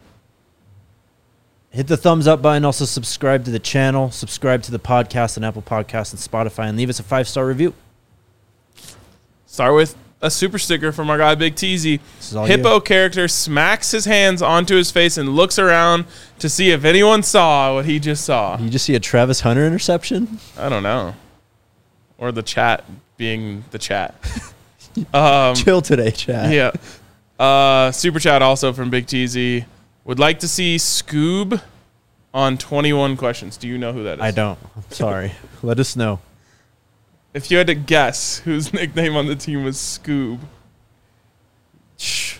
Hit the thumbs up button. Also, subscribe to the channel. Subscribe to the podcast on Apple Podcasts and Spotify. And leave us a five-star review. Start with a super sticker from our guy Big Teasy. This is all Hippo you. character smacks his hands onto his face and looks around to see if anyone saw what he just saw. You just see a Travis Hunter interception? I don't know. Or the chat being the chat. um, Chill today, chat. yeah. Uh, super chat also from Big Teasy. Would like to see Scoob on twenty-one questions. Do you know who that is? I don't. I'm sorry. Let us know. If you had to guess whose nickname on the team was Scoob. Shh.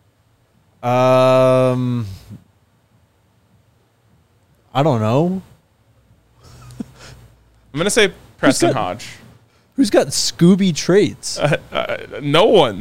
Um, I don't know. I'm going to say Preston got- Hodge. Who's got Scooby traits? Uh, uh, no one.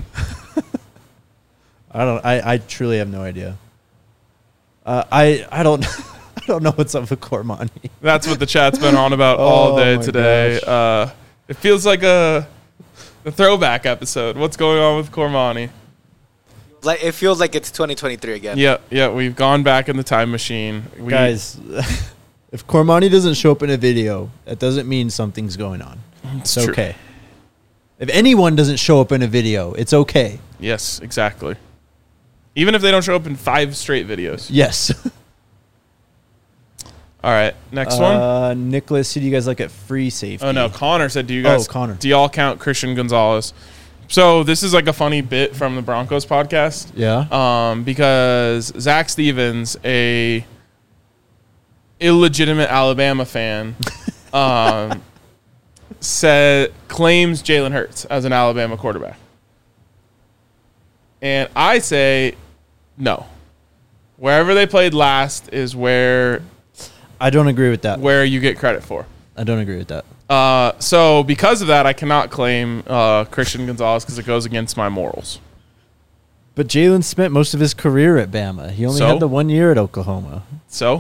I don't. I, I truly have no idea. Uh, I I don't. I don't know what's up with Cormani. That's what the chat's been on about all Oh day my today. gosh. Uh, it feels like a, a throwback episode. What's going on with Cormani? Like it feels like it's twenty twenty-three again. Yeah, yeah, we've gone back in the time machine. We, Guys, if Cormani doesn't show up in a video, that doesn't mean something's going on. it's It's true. okay. If anyone doesn't show up in a video, it's okay. Yes, exactly. Even if they don't show up in five straight videos. Yes. All right, next one. Uh, Nicholas, who do you guys like at free safety? Oh no, Connor said, "Do you guys? Oh, Connor. Do y'all count Christian Gonzalez?" So this is like a funny bit from the Broncos podcast. Yeah. Um, because Zach Stevens, a illegitimate Alabama fan, um, said claims Jalen Hurts as an Alabama quarterback, and I say no. Wherever they played last is where I don't agree with that. where you get credit for. I don't agree with that. Uh, so because of that, I cannot claim uh, Christian Gonzalez because it goes against my morals. But Jalen spent most of his career at Bama. He only So? had the one year at Oklahoma. So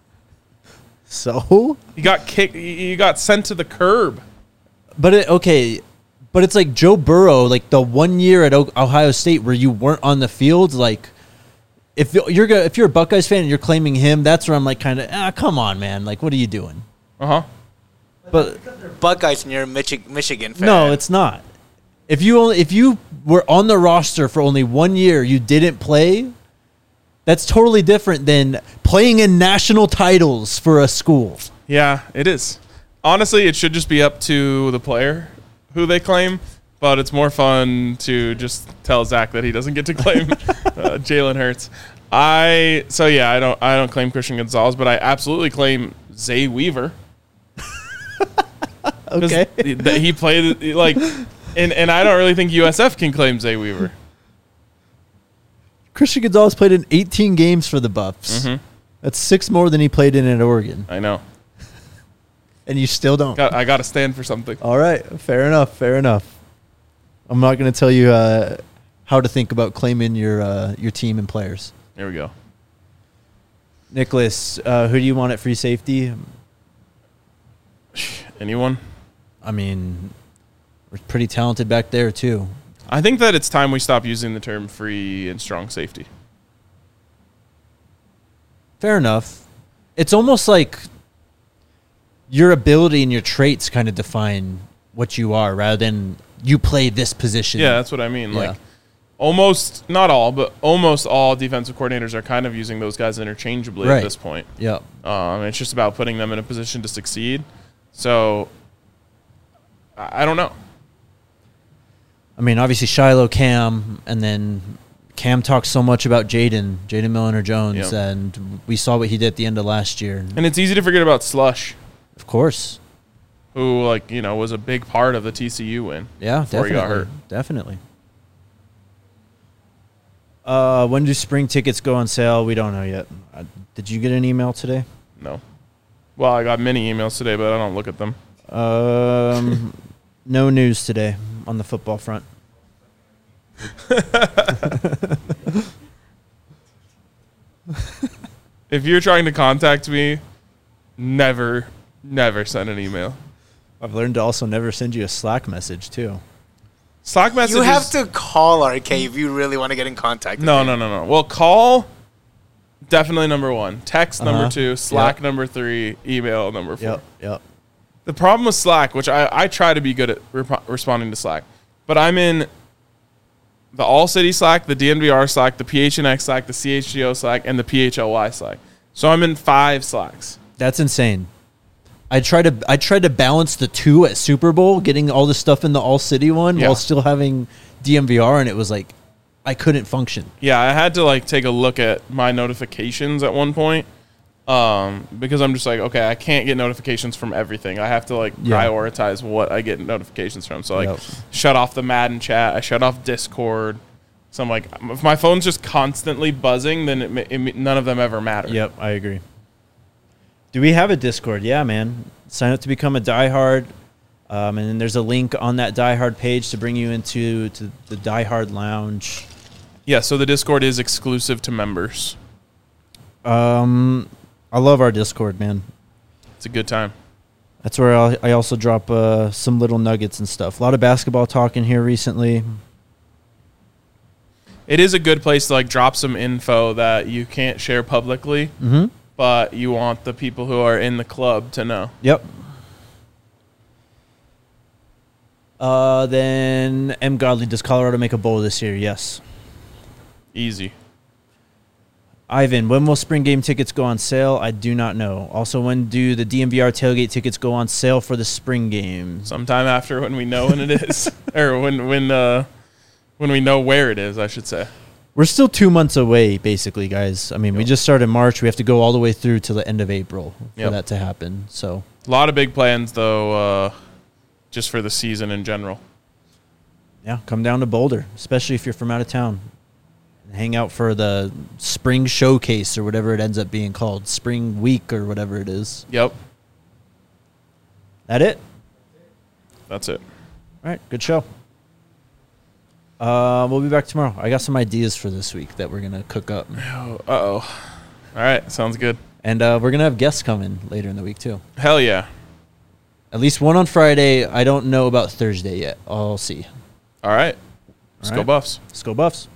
So? he got kicked. He got sent to the curb. But it, okay, but it's like Joe Burrow, like the one year at o- Ohio State where you weren't on the field, like if you're go- if you're a Buckeyes fan and you're claiming him, that's where I'm like kind of ah, come on, man, like what are you doing? Uh huh. But Buckeyes and you're a Michi- Michigan fan. no, it's not. If you only if you were on the roster for only one year, you didn't play. That's totally different than playing in national titles for a school. Yeah, it is. Honestly, it should just be up to the player who they claim, but it's more fun to just tell Zach that he doesn't get to claim uh, Jalen Hurts. I so yeah, I don't I don't claim Christian Gonzalez, but I absolutely claim Zay Weaver. Okay. he, he played like, and and I don't really think U S F can claim Zay Weaver. Christian Gonzalez played in eighteen games for the Buffs. Mhm. That's six more than he played in at Oregon. I know. And you still don't. Got, I got to stand for something. All right. Fair enough. Fair enough. I'm not going to tell you uh, how to think about claiming your uh, your team and players. There we go. Nicholas, uh, who do you want at free safety? Anyone? I mean, we're pretty talented back there, too. I think that it's time we stop using the term free and strong safety. Fair enough. It's almost like your ability and your traits kind of define what you are rather than you play this position. Yeah, that's what I mean. Yeah. Like almost, not all, but almost all defensive coordinators are kind of using those guys interchangeably Right. at this point. Yeah. Um, it's just about putting them in a position to succeed. So I I don't know. I mean, obviously Shiloh, Cam, and then Cam talks so much about Jaden, Jaden Milner-Jones, Yeah. and we saw what he did at the end of last year. And it's easy to forget about Slush, Of course. who like you know was a big part of the T C U win. Yeah, Before he definitely. got hurt. Definitely. Uh, when do spring tickets go on sale? We don't know yet. Uh, did you get an email today? No. Well, I got many emails today, but I don't look at them. Um, no news today on the football front. If you're trying to contact me, never, never send an email. I've learned to also never send you a Slack message, too. Slack messages. You have to call R K if you really want to get in contact with No, him. no, no, no. Well, call, definitely number one. Text, Uh-huh. number two. Slack, Yep. number three. Email, number four. Yep, yep. The problem with Slack, which I, I try to be good at rep- responding to Slack, but I'm in the All City Slack, the D N V R Slack, the P H N X Slack, the C H G O Slack, and the P H L Y Slack. So I'm in five Slacks. That's insane. I tried to I tried to balance the two at Super Bowl, getting all the stuff in the All City one Yeah. while still having D M V R, and it was like I couldn't function. Yeah, I had to like take a look at my notifications at one point um, because I'm just like, okay, I can't get notifications from everything. I have to like Yeah. prioritize what I get notifications from. So like, Yep. shut off the Madden chat. I shut off Discord. So I'm like, if my phone's just constantly buzzing, then it, ma- it, ma- none of them ever matter. Yep, I agree. Do we have a Discord? Yeah, man. Sign up to become a diehard, um, and then there's a link on that diehard page to bring you into to the diehard lounge. Yeah. So the Discord is exclusive to members. Um, I love our Discord, man. It's a good time. That's where I'll, I also drop uh, some little nuggets and stuff. A lot of basketball talk in here recently. It is a good place to like drop some info that you can't share publicly, Mm-hmm. but you want the people who are in the club to know. Yep. Uh, then M. Godley, does Colorado make a bowl this year? Yes. Easy. Ivan, when will spring game tickets go on sale? I do not know. Also, when do the D M V R tailgate tickets go on sale for the spring games? Sometime after when we know when it is, or when when uh, when we know where it is, I should say. We're still two months away, basically, guys. I mean, we Yep. just started March. We have to go all the way through to the end of April for Yep. that to happen. So, A lot of big plans though, uh, just for the season in general. yeah, come down to Boulder, especially if you're from out of town. hang out for the spring showcase or whatever it ends up being called, spring week or whatever it is. Yep. That it? That's it. All right, good show. Uh, we'll be back tomorrow. I got some ideas for this week that we're going to cook up. Oh, uh-oh. All right, sounds good. And uh, we're going to have guests coming later in the week, too. Hell yeah. At least one on Friday. I don't know about Thursday yet. I'll see. All right. Let's All go right. Buffs. Let's go Buffs.